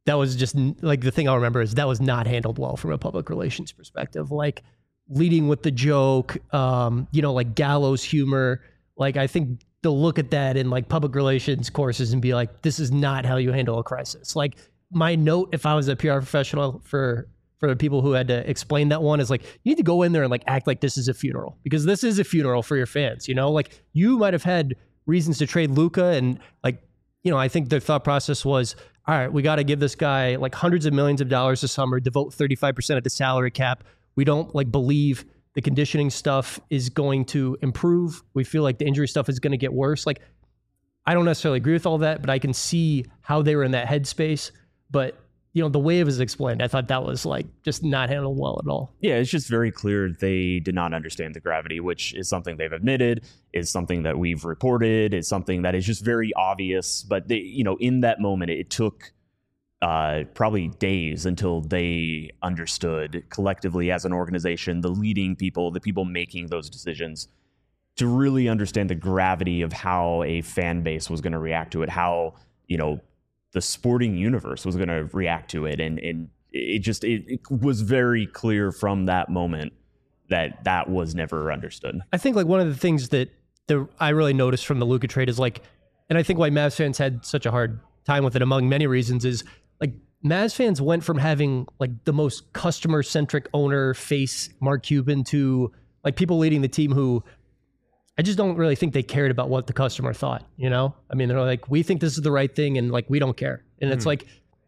that was just like the thing I remember is that was not handled well from a public relations perspective. Like leading with the joke, um, you know, like gallows humor. Like I think they'll look at that in like public relations courses and be like, this is not how you handle a crisis. Like my note, if I was a P R professional for for the people who had to explain that one, is like, you need to go in there and like act like this is a funeral, because this is a funeral for your fans. You know, like you might have had reasons to trade Luka, and like, you know, I think their thought process was, all right, we got to give this guy like hundreds of millions of dollars this summer, devote thirty-five percent of the salary cap. We don't like believe the conditioning stuff is going to improve. We feel like the injury stuff is going to get worse. Like, I don't necessarily agree with all that, but I can see how they were in that headspace. But you know, the way it was explained, I thought that was like just not handled well at all. Yeah, it's just very clear they did not understand the gravity, which is something they've admitted, is something that we've reported, is something that is just very obvious. But they, you know, in that moment, it took uh, probably days until they understood collectively as an organization, the leading people, the people making those decisions, to really understand the gravity of how a fan base was going to react to it, how, you know, the sporting universe was going to react to it. And, and it just, it, it was very clear from that moment that that was never understood. I think like one of the things that the, I really noticed from the Luka trade is like, and I think why Mavs fans had such a hard time with it among many reasons is like Mavs fans went from having like the most customer centric owner face Mark Cuban to like people leading the team who I just don't really think they cared about what the customer thought, you know? I mean, they're like, we think this is the right thing and like, we don't care. And mm. it's like,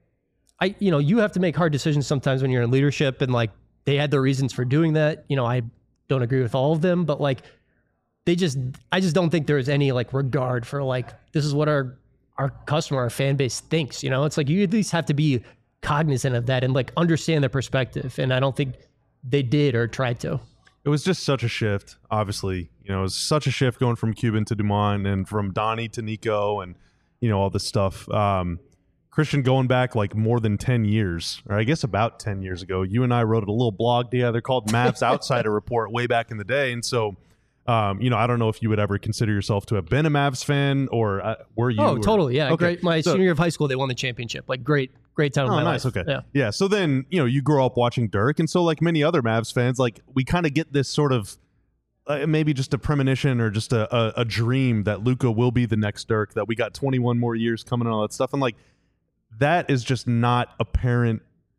I, you know, you have to make hard decisions sometimes when you're in leadership, and like they had their reasons for doing that. You know, I don't agree with all of them, but like they just, I just don't think there's any like regard for like, this is what our, our customer, our fan base thinks, you know? It's like, you at least have to be cognizant of that and like understand their perspective. And I don't think they did or tried to. It was just such a shift, obviously. You know, it was such a shift going from Cuban to Dumont and from Donnie to Nico and, you know, all this stuff. Um, Christian, going back like more than ten years, or I guess about ten years ago, you and I wrote a little blog together called Mavs Outsider Report way back in the day. And so, um, you know, I don't know if you would ever consider yourself to have been a Mavs fan, or uh, were you? Oh, or, totally. Yeah. Okay. Great. My so, senior year of high school, they won the championship. Like great, great time. Oh, of my nice. life. Okay. Yeah. Yeah. So then, you know, you grow up watching Dirk. And so like many other Mavs fans, like we kind of get this sort of uh, maybe just a premonition or just a, a, a dream that Luka will be the next Dirk, that we got twenty-one more years coming and all that stuff. And like, that is just not apparent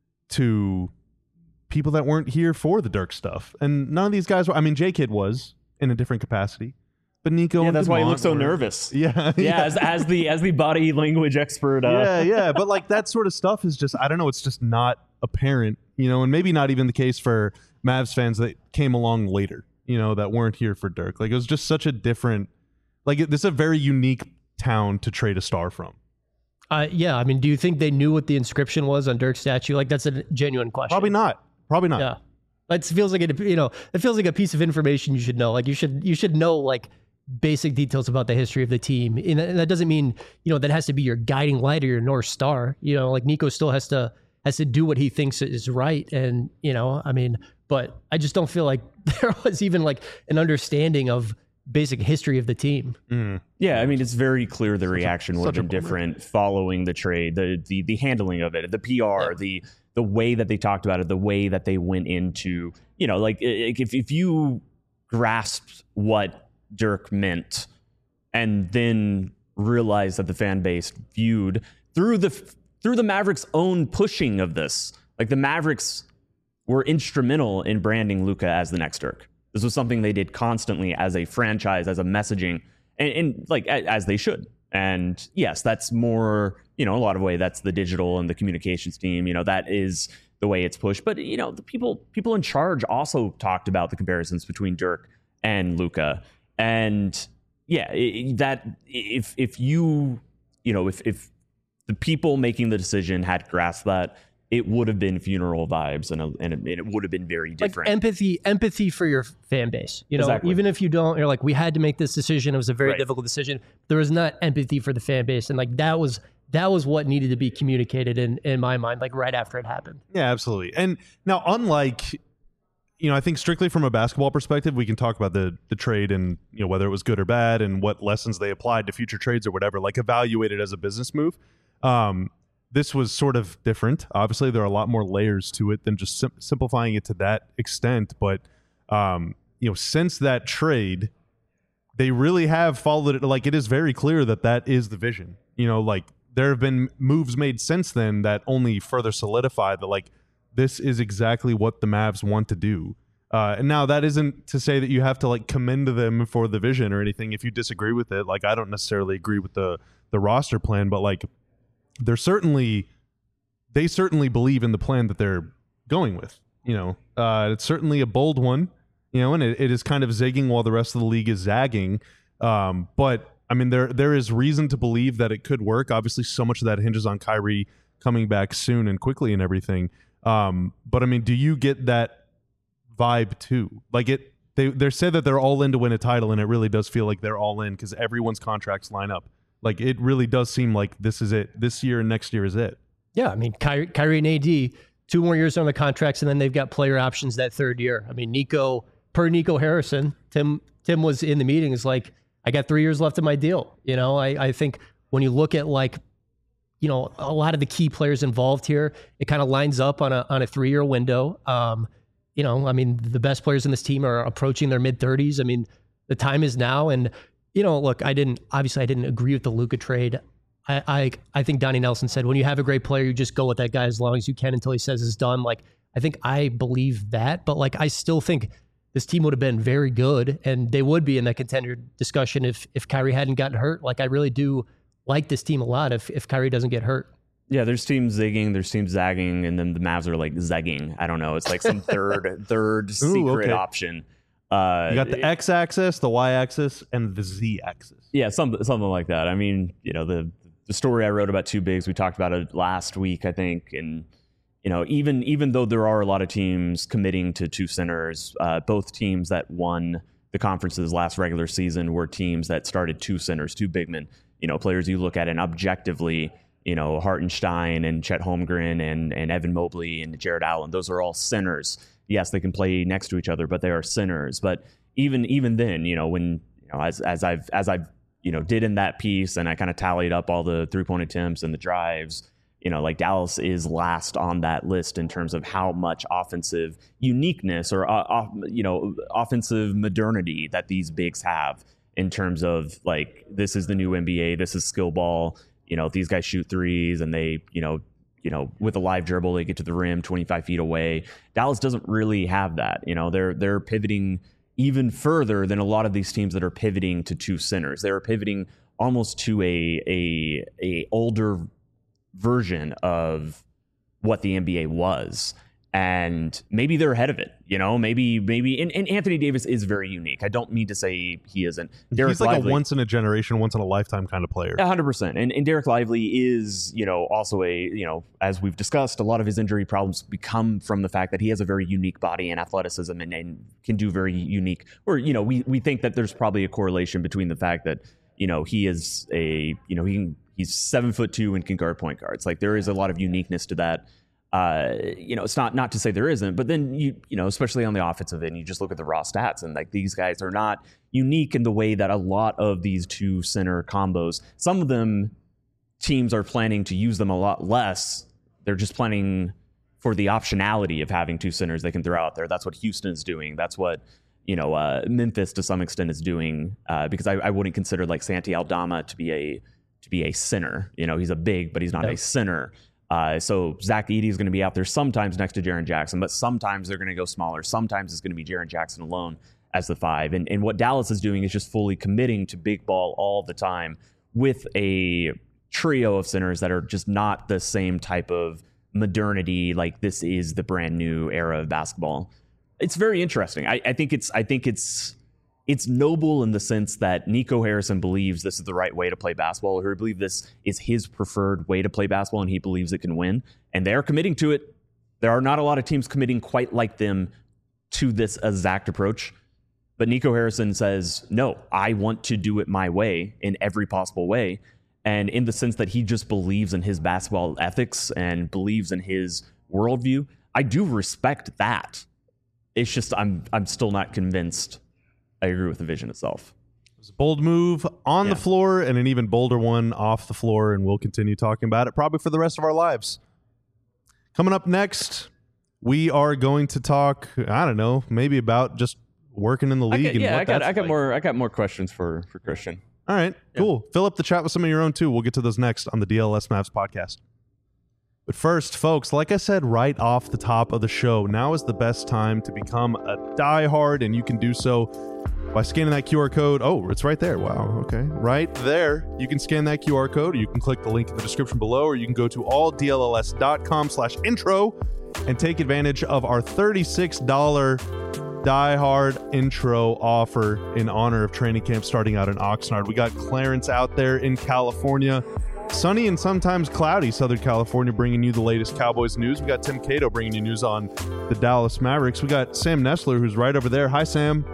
to people that weren't here for the Dirk stuff. And none of these guys were. I mean, J-Kid was in a different capacity, but Nico. Yeah, and that's Dumont why he looks so were, nervous. Yeah, yeah. yeah. As, as the as the body language expert. Uh. Yeah, yeah. But like that sort of stuff is just, I don't know. It's just not apparent, you know, and maybe not even the case for Mavs fans that came along later, you know, that weren't here for Dirk. Like it was just such a different, like this is a very unique town to trade a star from. Uh, yeah. I mean, do you think they knew what the inscription was on Dirk's statue? Like that's a genuine question. Probably not. Probably not. Yeah. It feels like it, you know, it feels like a piece of information you should know. Like you should, you should know like basic details about the history of the team. And that doesn't mean, you know, that has to be your guiding light or your North Star. You know, like Nico still has to, has to do what he thinks is right. And, you know, I mean, but I just don't feel like there was even like an understanding of basic history of the team. Mm. Yeah, I mean, it's very clear the reaction would have been bummer. different following the trade, the the the handling of it, the P R, Yeah. the the way that they talked about it, the way that they went into, you know, like if if you grasped what Dirk meant and then realized that the fan base viewed through the through the Mavericks' own pushing of this, like the Mavericks were instrumental in branding Luka as the next Dirk. This was something they did constantly as a franchise, as a messaging, and, and like as they should. And yes, that's more, you know, a lot of way that's the digital and the communications team. You know, that is the way it's pushed. But you know, the people people in charge also talked about the comparisons between Dirk and Luka. And yeah, it, that if if you you know if if the people making the decision had grasped that, it would have been funeral vibes, and, a, and, it, and it would have been very different. Like empathy, empathy for your fan base. You know, Exactly. even if you don't, you're like, we had to make this decision. It was a very Right. difficult decision. There was not empathy for the fan base, and like that was that was what needed to be communicated in in my mind, like right after it happened. Yeah, absolutely. And now, unlike, you know, I think strictly from a basketball perspective, we can talk about the the trade and, you know, whether it was good or bad and what lessons they applied to future trades or whatever, like evaluate it as a business move. Um, this was sort of different. Obviously, there are a lot more layers to it than just sim- simplifying it to that extent. But, um, you know, since that trade, they really have followed it. Like, it is very clear that that is the vision. You know, like, there have been moves made since then that only further solidify that, like, this is exactly what the Mavs want to do. Uh, and now that isn't to say that you have to, like, commend them for the vision or anything if you disagree with it. Like, I don't necessarily agree with the the roster plan, but, like, they're certainly they certainly believe in the plan that they're going with. You know, uh, it's certainly a bold one, you know, and it, it is kind of zigging while the rest of the league is zagging. Um, but I mean, there there is reason to believe that it could work. Obviously, so much of that hinges on Kyrie coming back soon and quickly and everything. Um, but I mean, do you get that vibe too? Like, it, they they say that they're all in to win a title, and it really does feel like they're all in because everyone's contracts line up. Like, it really does seem like this is it. This year and next year is it. Yeah, I mean, Kyrie, Kyrie and A D, two more years on the contracts, and then they've got player options that third year. I mean, Nico, per Nico Harrison, Tim Tim was in the meeting, is like, I got three years left of my deal. You know, I, I think when you look at, like, you know, a lot of the key players involved here, it kind of lines up on a on a three-year window. Um, you know, I mean, the best players in this team are approaching their mid-thirties. I mean, the time is now. And, you know, look, I didn't, obviously I didn't agree with the Luka trade. I, I I think Donnie Nelson said, when you have a great player, you just go with that guy as long as you can until he says it's done. Like, I think I believe that, but, like, I still think this team would have been very good, and they would be in that contender discussion if if Kyrie hadn't gotten hurt. Like, I really do like this team a lot if if Kyrie doesn't get hurt. Yeah, there's teams zigging, there's teams zagging, and then the Mavs are like zegging. I don't know. It's like some third third Ooh, secret okay. option. Uh, You got the x-axis, the y-axis, and the z-axis. Yeah, something something like that. I mean, you know, the the story I wrote about two bigs, we talked about it last week, I think, and you know, even even though there are a lot of teams committing to two centers, uh, both teams that won the conference's last regular season were teams that started two centers, two big men. You know, players you look at and objectively, you know, Hartenstein and Chet Holmgren and and Evan Mobley and Jared Allen, those are all centers. Yes, they can play next to each other, but they are centers. But even even then, you know, when you know, as as I've as I've you know did in that piece, and I kind of tallied up all the three point attempts and the drives. You know, like, Dallas is last on that list in terms of how much offensive uniqueness or, uh, off, you know, offensive modernity that these bigs have in terms of, like, this is the new N B A. This is skill ball. You know, these guys shoot threes and they, you know, you know, with a live dribble, they get to the rim twenty-five feet away. Dallas doesn't really have that. You know, they're they're pivoting even further than a lot of these teams that are pivoting to two centers. They're pivoting almost to a a a older version of what the N B A was, and maybe they're ahead of it. You know, maybe maybe and, and Anthony Davis is very unique. I don't mean to say he isn't. Derek He's like Lively, a once in a generation, once in a lifetime kind of player. one hundred percent. And and Derek Lively is, you know, also a, you know, as we've discussed, a lot of his injury problems become from the fact that he has a very unique body and athleticism and, and can do very unique, or, you know, we we think that there's probably a correlation between the fact that, you know, he is a, you know, he can He's seven foot two and can guard point guards. Like, there is a lot of uniqueness to that. Uh, you know, it's not not to say there isn't, but then you you know, especially on the offensive end, you just look at the raw stats, and, like, these guys are not unique in the way that a lot of these two center combos. Some of them, teams are planning to use them a lot less. They're just planning for the optionality of having two centers they can throw out there. That's what Houston is doing. That's what, you know, uh, Memphis to some extent is doing. Uh, because I, I wouldn't consider, like, Santi Aldama to be a to be a center. You know, he's a big, but he's not yep. a center. Uh, so Zach Edey is going to be out there sometimes next to Jaren Jackson, but sometimes they're going to go smaller. Sometimes it's going to be Jaren Jackson alone as the five. And, and what Dallas is doing is just fully committing to big ball all the time with a trio of centers that are just not the same type of modernity. Like, this is the brand new era of basketball. It's very interesting. I, I think it's, I think it's, It's noble in the sense that Nico Harrison believes this is the right way to play basketball, or he believes this is his preferred way to play basketball, and he believes it can win. And they're committing to it. There are not a lot of teams committing quite like them to this exact approach. But Nico Harrison says, no, I want to do it my way in every possible way. And in the sense that he just believes in his basketball ethics and believes in his worldview, I do respect that. It's just I'm I'm still not convinced I agree with the vision itself. I was a bold move on Yeah. the floor and an even bolder one off the floor, and we'll continue talking about it probably for the rest of our lives. Coming up next, we are going to talk, I don't know, maybe about just working in the I league. got, and yeah, what I got that's I got like. more I got more questions for for Christian. All right, cool. Fill up the chat with some of your own too. We'll get to those next on the D L S Mavs podcast. But first, folks, like I said right off the top of the show, now is the best time to become a diehard, and you can do so by scanning that Q R code. Oh, it's right there. Wow. Okay. Right there. You can scan that Q R code, or you can click the link in the description below, or you can go to alldls.com slash intro and take advantage of our thirty-six dollars Die Hard intro offer in honor of training camp starting out in Oxnard. We got Clarence out there in California. Sunny and sometimes cloudy Southern California, bringing you the latest Cowboys news. We got Tim Cato bringing you news on the Dallas Mavericks. We got Sam Nestler, who's right over there. Hi, Sam.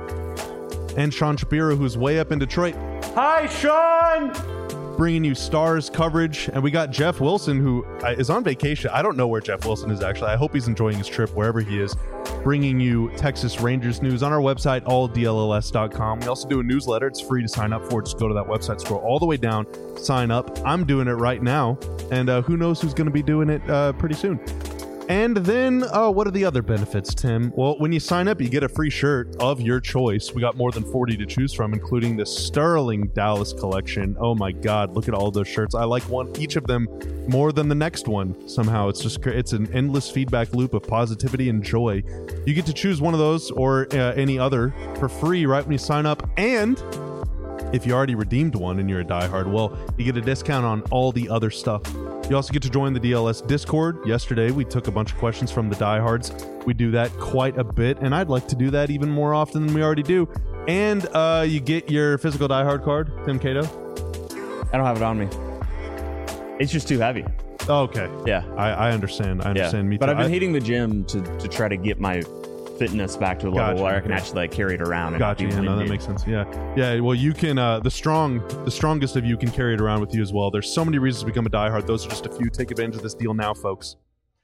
And Sean Shapiro, who's way up in Detroit. Hi, Sean! Bringing you Stars coverage. And we got Jeff Wilson, who is on vacation. I don't know where Jeff Wilson is, actually. I hope he's enjoying his trip wherever he is. Bringing you Texas Rangers news on our website, all D L S dot com. We also do a newsletter. It's free to sign up for. Just go to that website, scroll all the way down, sign up. I'm doing it right now. And uh, who knows who's going to be doing it uh, pretty soon. And then, uh, what are the other benefits, Tim? Well, when you sign up, you get a free shirt of your choice. We got more than forty to choose from, including the Sterling Dallas collection. Oh my God, look at all those shirts. I like one, each of them more than the next one. Somehow, it's just it's an endless feedback loop of positivity and joy. You get to choose one of those or uh, any other for free right when you sign up. And if you already redeemed one and you're a diehard, well, you get a discount on all the other stuff. You also get to join the D L S Discord. Yesterday, we took a bunch of questions from the diehards. We do that quite a bit, and I'd like to do that even more often than we already do. And uh, you get your physical diehard card, Tim Cato. I don't have it on me. It's just too heavy. Oh, okay. Yeah. I, I understand. I understand. Yeah. Me too. But I've been I, hitting the gym to, to try to get my fitness back to a level Gotcha. where I can actually like carry it around. And Gotcha. not be Yeah, no, that winded. makes sense. Yeah, yeah. Well, you can. Uh, the strong, the strongest of you can carry it around with you as well. There's so many reasons to become a diehard. Those are just a few. Take advantage of this deal now, folks.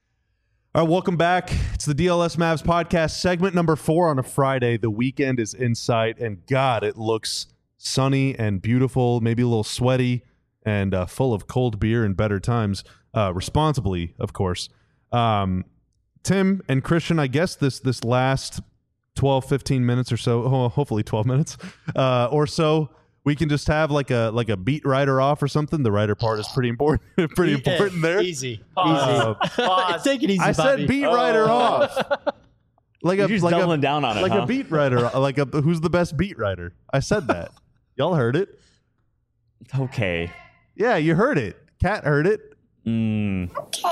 All right, welcome back. It's the D L S Mavs podcast, segment number four on a Friday. The weekend is in sight, and God, it looks sunny and beautiful. Maybe a little sweaty and uh, full of cold beer and better times, uh, responsibly, of course. Um, Tim and Christian, I guess this this last twelve, fifteen minutes or so, oh, hopefully twelve minutes uh, or so, we can just have like a like a beat writer off or something. The writer part is pretty important, pretty important there. Easy. Uh, Easy. Take it easy, I Bobby. said beat writer Oh. off. Like You're a just like doubling a, down on it, like huh? a beat writer, like a who's the best beat writer. I said that. Y'all heard it. Okay. Yeah, you heard it. Kat heard it. Mm.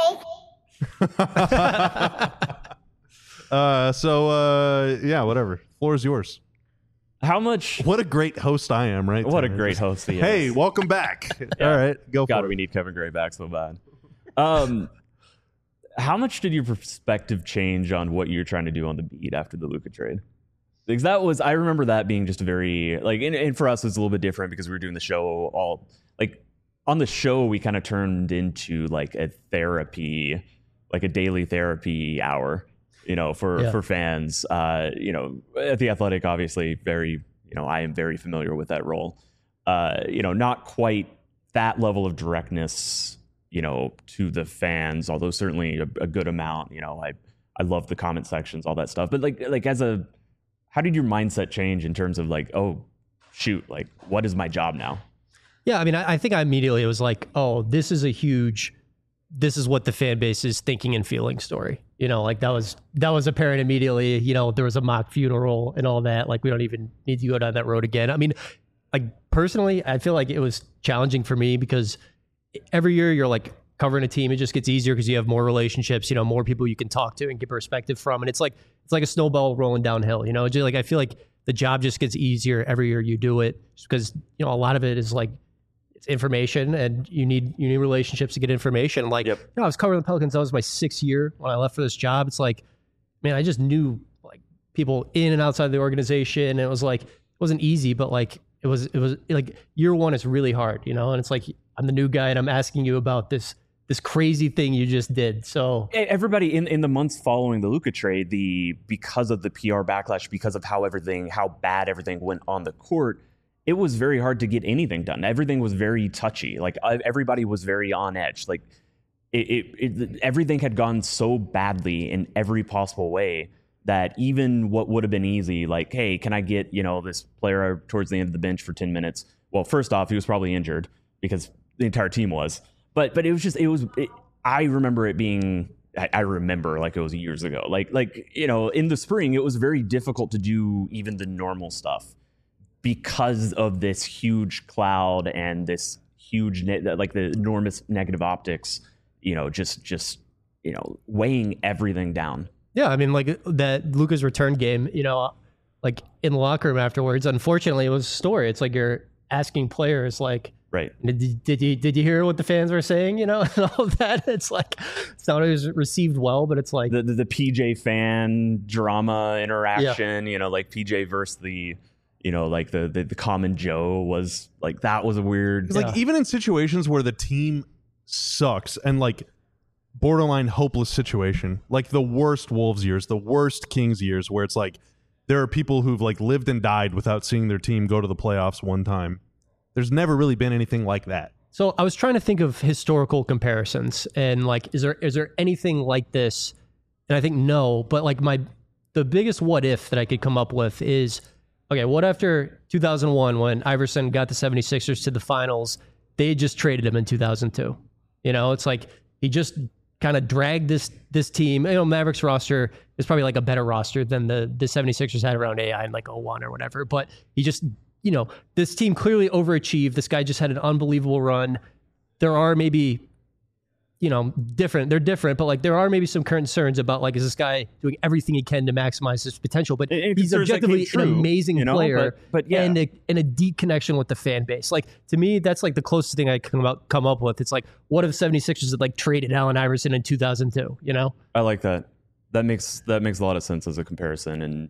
uh, so uh, yeah, whatever. Floor is yours. How much? What a great host I am, right? What a Tim? great Just, host he is. Hey, welcome back. All right, go God, for we it. need Kevin Gray back so bad. Um, how much did your perspective change on what you're trying to do on the beat after the Luka trade? Because that was, I remember that being just a very, like, and, and for us, it was a little bit different because we were doing the show all, like, on the show, we kind of turned into like a therapy, like a daily therapy hour, you know, for, Yeah. for fans. Uh, you know, at The Athletic, obviously, very, you know, I am very familiar with that role. Uh, you know, not quite that level of directness, you know, to the fans, although certainly a, a good amount. You know, I I love the comment sections, all that stuff. But like like as a, how did your mindset change in terms of like, oh, shoot, like what is my job now? Yeah, I mean, I, I think I immediately was like, oh, this is a huge, this is what the fan base is thinking and feeling story. You know, like that was that was apparent immediately. You know, there was a mock funeral and all that. Like we don't even need to go down that road again. I mean, like personally, I feel like it was challenging for me because every year you're like covering a team, it just gets easier because you have more relationships, you know, more people you can talk to and get perspective from. And it's like it's like a snowball rolling downhill, you know. Just like I feel like the job just gets easier every year you do it just because, you know, a lot of it is like it's information and you need you need relationships to get information. Like, Yep. you know, I was covering the Pelicans, that was my sixth year when I left for this job. It's like, man, I just knew like people in and outside the organization. And it was like, it wasn't easy, but like it was it was like year one is really hard, you know, and it's like I'm the new guy and I'm asking you about this this crazy thing you just did. So Everybody in, in the months following the Luka trade, the because of the P R backlash, because of how everything, how bad everything went on the court, it was very hard to get anything done. Everything was very touchy. Like everybody was very on edge. Like it, it, it everything had gone so badly in every possible way that even what would have been easy, like, hey, can I get, you know, this player towards the end of the bench for ten minutes? Well, first off, he was probably injured because the entire team was. But but it was just, it was, it, I remember it being, I, I remember like it was years ago. Like, like, you know, in the spring, it was very difficult to do even the normal stuff because of this huge cloud and this huge, ne- like the enormous negative optics, you know, just, just, you know, weighing everything down. Yeah, I mean, like that Luka's return game, you know, like in the locker room afterwards, unfortunately, it was a story. It's like you're asking players, like, right, did, did you did you hear what the fans were saying, you know, and all of that? It's like, it's not always received well, but it's like. The, the, the P J fan drama interaction, yeah. you know, like P J versus the, you know, like the, the, the common Joe was like, that was a weird. Yeah. Like even in situations where the team sucks and like, borderline hopeless situation, like the worst Wolves years, the worst Kings years, where it's like there are people who've like lived and died without seeing their team go to the playoffs one time. There's never really been anything like that. So I was trying to think of historical comparisons and like, is there is there anything like this? And I think no, but like my the biggest what if that I could come up with is, okay, what after two thousand one when Iverson got the seventy-sixers to the finals, they had just traded him in two thousand two. You know, it's like he just kind of dragged this this team. You know, Mavericks roster is probably like a better roster than the the seventy-sixers had around A I in like oh one or whatever. But he just, you know, this team clearly overachieved. This guy just had an unbelievable run. There are maybe, you know, different. They're different, but like there are maybe some concerns about like, is this guy doing everything he can to maximize his potential? But it, he's objectively true, an amazing you know, player, but, but yeah. and a, and a deep connection with the fan base. Like to me, that's like the closest thing I can come up, come up with. It's like, what if seventy-sixers had like traded Allen Iverson in two thousand two? You know, I like that. That makes that makes a lot of sense as a comparison, and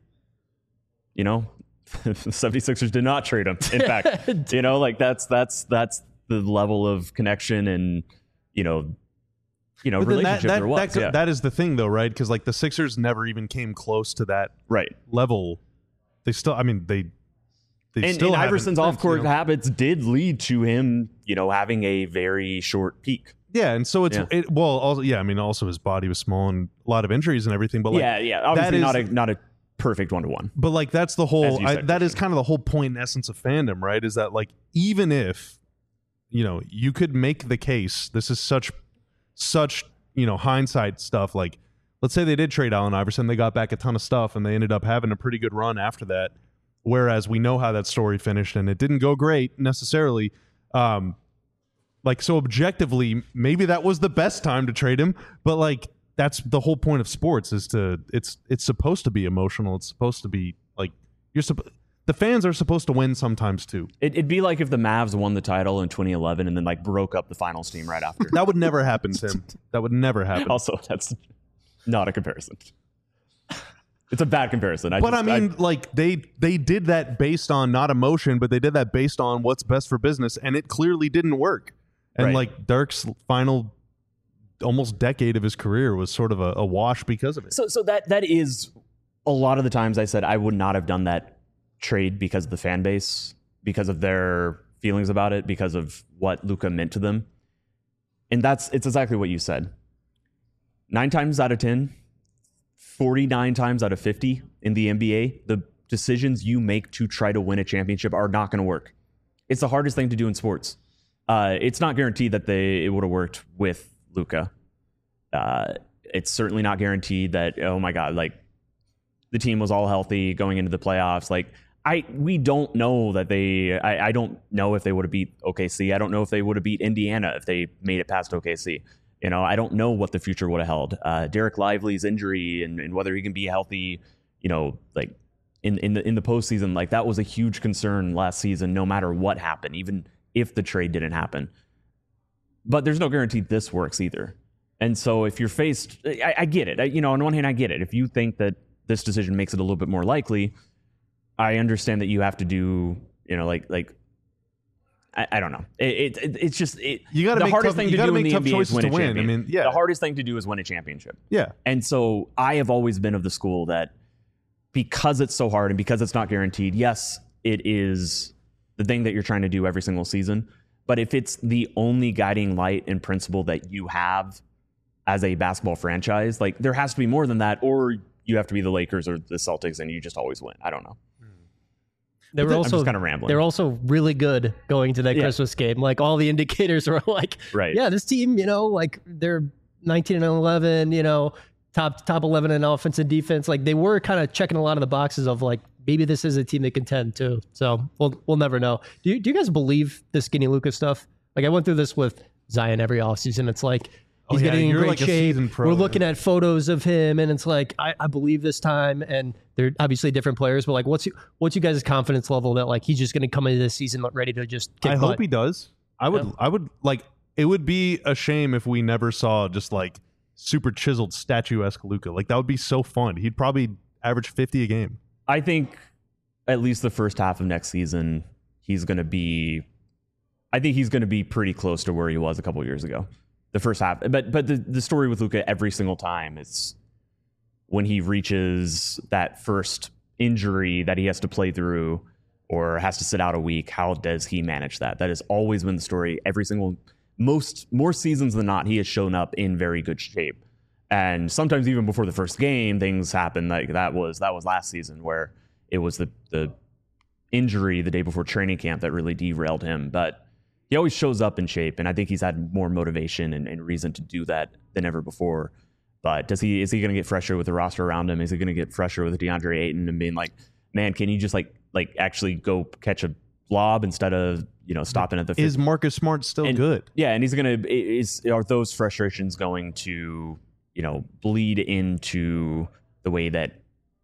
you know, the seventy-sixers did not trade him. In fact, you know, like that's that's that's the level of connection and you know. You know, relationship that, that, there was. That, yeah. that is the thing, though, right? Because like the Sixers never even came close to that right level. They still, I mean, they they and, still. And Iverson's off-court you know? habits did lead to him, you know, having a very short peak. Yeah, and so it's yeah. it, well, also yeah, I mean, also his body was small and a lot of injuries and everything. But like, yeah, yeah, obviously is, not a not a perfect one to one. But like that's the whole. I, said, that is kind of the whole point and essence of fandom, right? Is that like even if you know you could make the case, this is such such. you know, hindsight stuff, like let's say they did trade Allen Iverson, they got back a ton of stuff and they ended up having a pretty good run after that. Whereas we know how that story finished and it didn't go great necessarily. Um, like, so objectively, maybe that was the best time to trade him, but like, that's the whole point of sports is to, it's, it's supposed to be emotional. It's supposed to be like, you're supposed, the fans are supposed to win sometimes too. It, it'd be like if the Mavs won the title in twenty eleven and then like broke up the finals team right after. That would never happen, Tim. That would never happen. Also, that's not a comparison. It's a bad comparison. I but just, I mean, I, like they they did that based on not emotion, but they did that based on what's best for business, and it clearly didn't work. And right. like Dirk's final almost decade of his career was sort of a, a wash because of it. So, so that that is a lot of the times I said I would not have done that trade because of the fan base, because of their feelings about it, because of what Luka meant to them. And that's it's exactly what you said. Nine times out of ten, forty-nine times out of fifty in the N B A, the decisions you make to try to win a championship are not going to work. It's the hardest thing to do in sports. Uh, it's not guaranteed that they it would have worked with Luka. Uh, it's certainly not guaranteed that, oh my God, like the team was all healthy going into the playoffs. Like, I we don't know that they I, I don't know if they would have beat O K C. I don't know if they would have beat Indiana if they made it past O K C. You know, I don't know what the future would have held. Uh, Derek Lively's injury and, and whether he can be healthy, you know, like in in the in the postseason, like that was a huge concern last season, no matter what happened, even if the trade didn't happen. But there's no guarantee this works either. And so if you're faced, I, I get it. I, you know, on one hand, I get it. If you think that this decision makes it a little bit more likely, I understand that you have to do, you know, like, like, I, I don't know. It, it, it's just, it, you got to the make hardest tough, thing you to gotta do in make the tough N B A is choices win to a win. I champion. mean, yeah. The hardest thing to do is win a championship. Yeah. And so I have always been of the school that because it's so hard and because it's not guaranteed, yes, it is, the thing that you're trying to do every single season. But if it's the only guiding light and principle that you have as a basketball franchise, like there has to be more than that, or you have to be the Lakers or the Celtics and you just always win. I don't know. They were also kind of rambling. They're also really good going to that Yeah. Christmas game. Like all the indicators were like, Right. yeah, this team, you know, like they're nineteen and eleven, you know, top top eleven in offense and defense. Like they were kind of checking a lot of the boxes of like maybe this is a team that contend too. So we'll we'll never know. Do you, do you guys believe the Skinny Lucas stuff? Like I went through this with Zion every offseason. It's like he's Oh, yeah, getting in you're great like a shape. seasoned pro, We're man. looking at photos of him, and it's like I, I believe this time. And they're obviously different players, but like, what's you, what's you guys' confidence level that like he's just going to come into this season ready to just kick I butt? hope he does. I would. Yeah. I would like. It would be a shame if we never saw just like super chiseled statuesque Luka. Like that would be so fun. He'd probably average fifty a game. I think at least the first half of next season, he's going to be, I think he's going to be pretty close to where he was a couple years ago. The first half. But but the, the story with Luka every single time is when he reaches that first injury that he has to play through or has to sit out a week, how does he manage that? That has always been the story. Every single, most, more seasons than not, he has shown up in very good shape. And sometimes even before the first game, things happen like that was, that was last season where it was the, the injury the day before training camp that really derailed him. But he always shows up in shape, and I think he's had more motivation and, and reason to do that than ever before. But does he is he going to get fresher with the roster around him? Is he going to get fresher with DeAndre Ayton and being like, man, can you just like like actually go catch a lob instead of you know stopping at the Is Marcus Smart still And- good? yeah, and he's gonna is are those frustrations going to you know bleed into the way that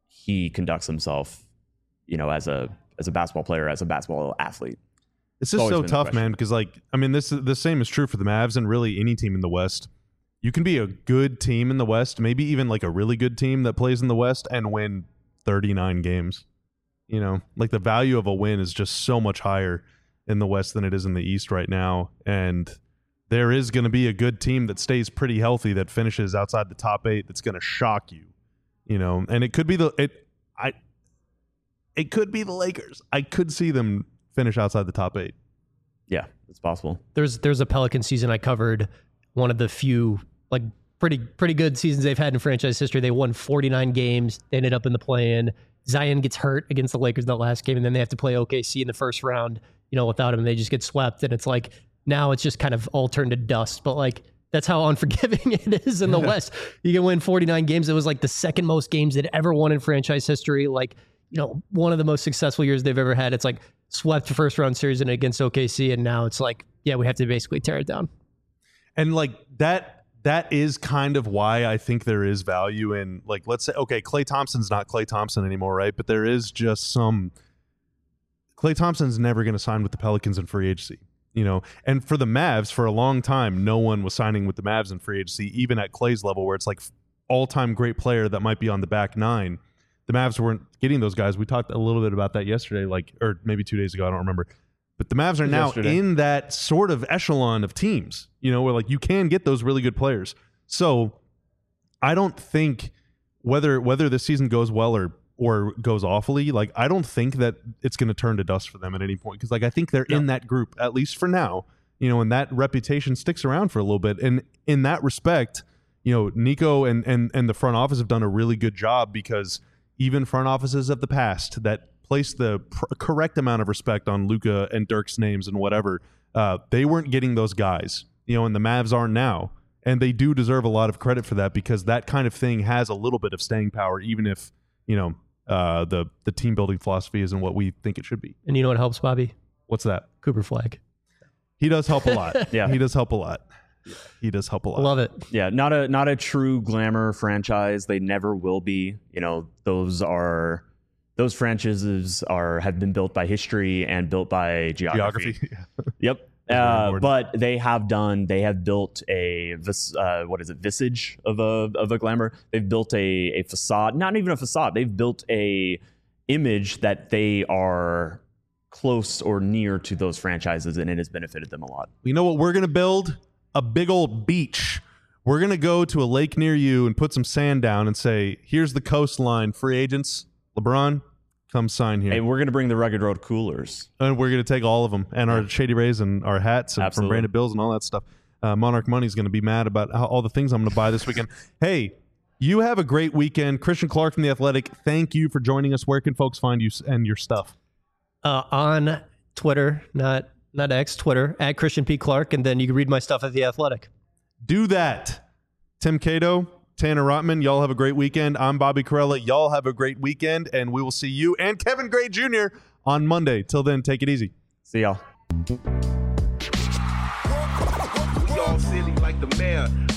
he conducts himself, you know, as a as a basketball player, as a basketball athlete? It's just always so been the tough, question. man. Because like, I mean, this the same is true for the Mavs and really any team in the West. You can be a good team in the West, maybe even like a really good team that plays in the West and win thirty-nine games. You know, like the value of a win is just so much higher in the West than it is in the East right now. And there is going to be a good team that stays pretty healthy that finishes outside the top eight. That's going to shock you. You know, and it could be the it. I. It could be the Lakers. I could see them finish outside the top eight. Yeah, it's possible. There's there's a Pelican season I covered, one of the few like pretty pretty good seasons they've had in franchise history. They won forty-nine games. They ended up in the play-in. Zion gets hurt against the Lakers in that last game, and then they have to play O K C in the first round. You know, without him, and they just get swept. And it's like now it's just kind of all turned to dust. But like that's how unforgiving it is in the West. You can win forty-nine games. It was like the second most games they'd ever won in franchise history. Like you know, one of the most successful years they've ever had. It's like swept first round series and against O K C, and now it's like, yeah, we have to basically tear it down. And like that that is kind of why I think there is value in like let's say okay, Klay Thompson's not Klay Thompson anymore, right? But there is just some Klay Thompson's never going to sign with the Pelicans in free agency, you know. And for the Mavs for a long time, no one was signing with the Mavs in free agency even at Klay's level where it's like all-time great player that might be on the back nine. The Mavs weren't getting those guys. We talked a little bit about that yesterday, like, or maybe two days ago. I don't remember. But the Mavs are now Yesterday. in that sort of echelon of teams, you know, where like you can get those really good players. So I don't think whether whether this season goes well or or goes awfully, like I don't think that it's going to turn to dust for them at any point because like I think they're No. in that group at least for now, you know, and that reputation sticks around for a little bit. And in that respect, you know, Nico and and and the front office have done a really good job because even front offices of the past that place the pr- correct amount of respect on Luka and Dirk's names and whatever, uh, they weren't getting those guys, you know, and the Mavs are now. And they do deserve a lot of credit for that because that kind of thing has a little bit of staying power, even if, you know, uh, the, the team building philosophy isn't what we think it should be. And you know what helps, Bobby? What's that? Cooper Flag. He does help a lot. Yeah. He does help a lot. He does help a lot. Love it. Yeah, not a not a true glamour franchise. They never will be. You know, those are those franchises are have been built by history and built by geography. Geography. Yep. very Uh, important. but they have done. They have built a vis, uh, what is it? Visage of a of a glamour. They've built a a facade. Not even a facade. They've built a image that they are close or near to those franchises, and it has benefited them a lot. You know what we're going to build? A big old beach. We're going to go to a lake near you and put some sand down and say, here's the coastline. Free agents, LeBron, come sign here. Hey, we're going to bring the Rugged Road coolers. And we're going to take all of them and our Shady Rays and our hats and from Absolutely. Branded Bills and all that stuff. Uh, Monarch Money's going to be mad about how, all the things I'm going to buy this weekend. Hey, you have a great weekend. Christian Clark from The Athletic, thank you for joining us. Where can folks find you and your stuff? Uh, on Twitter, not not X, Twitter, at Christian P. Clark, and then you can read my stuff at The Athletic. Do that. Tim Cato, Tanner Rotman, y'all have a great weekend. I'm Bobby Corella. Y'all have a great weekend, and we will see you and Kevin Gray Junior on Monday. Till then, take it easy. See y'all. We all silly like the mayor.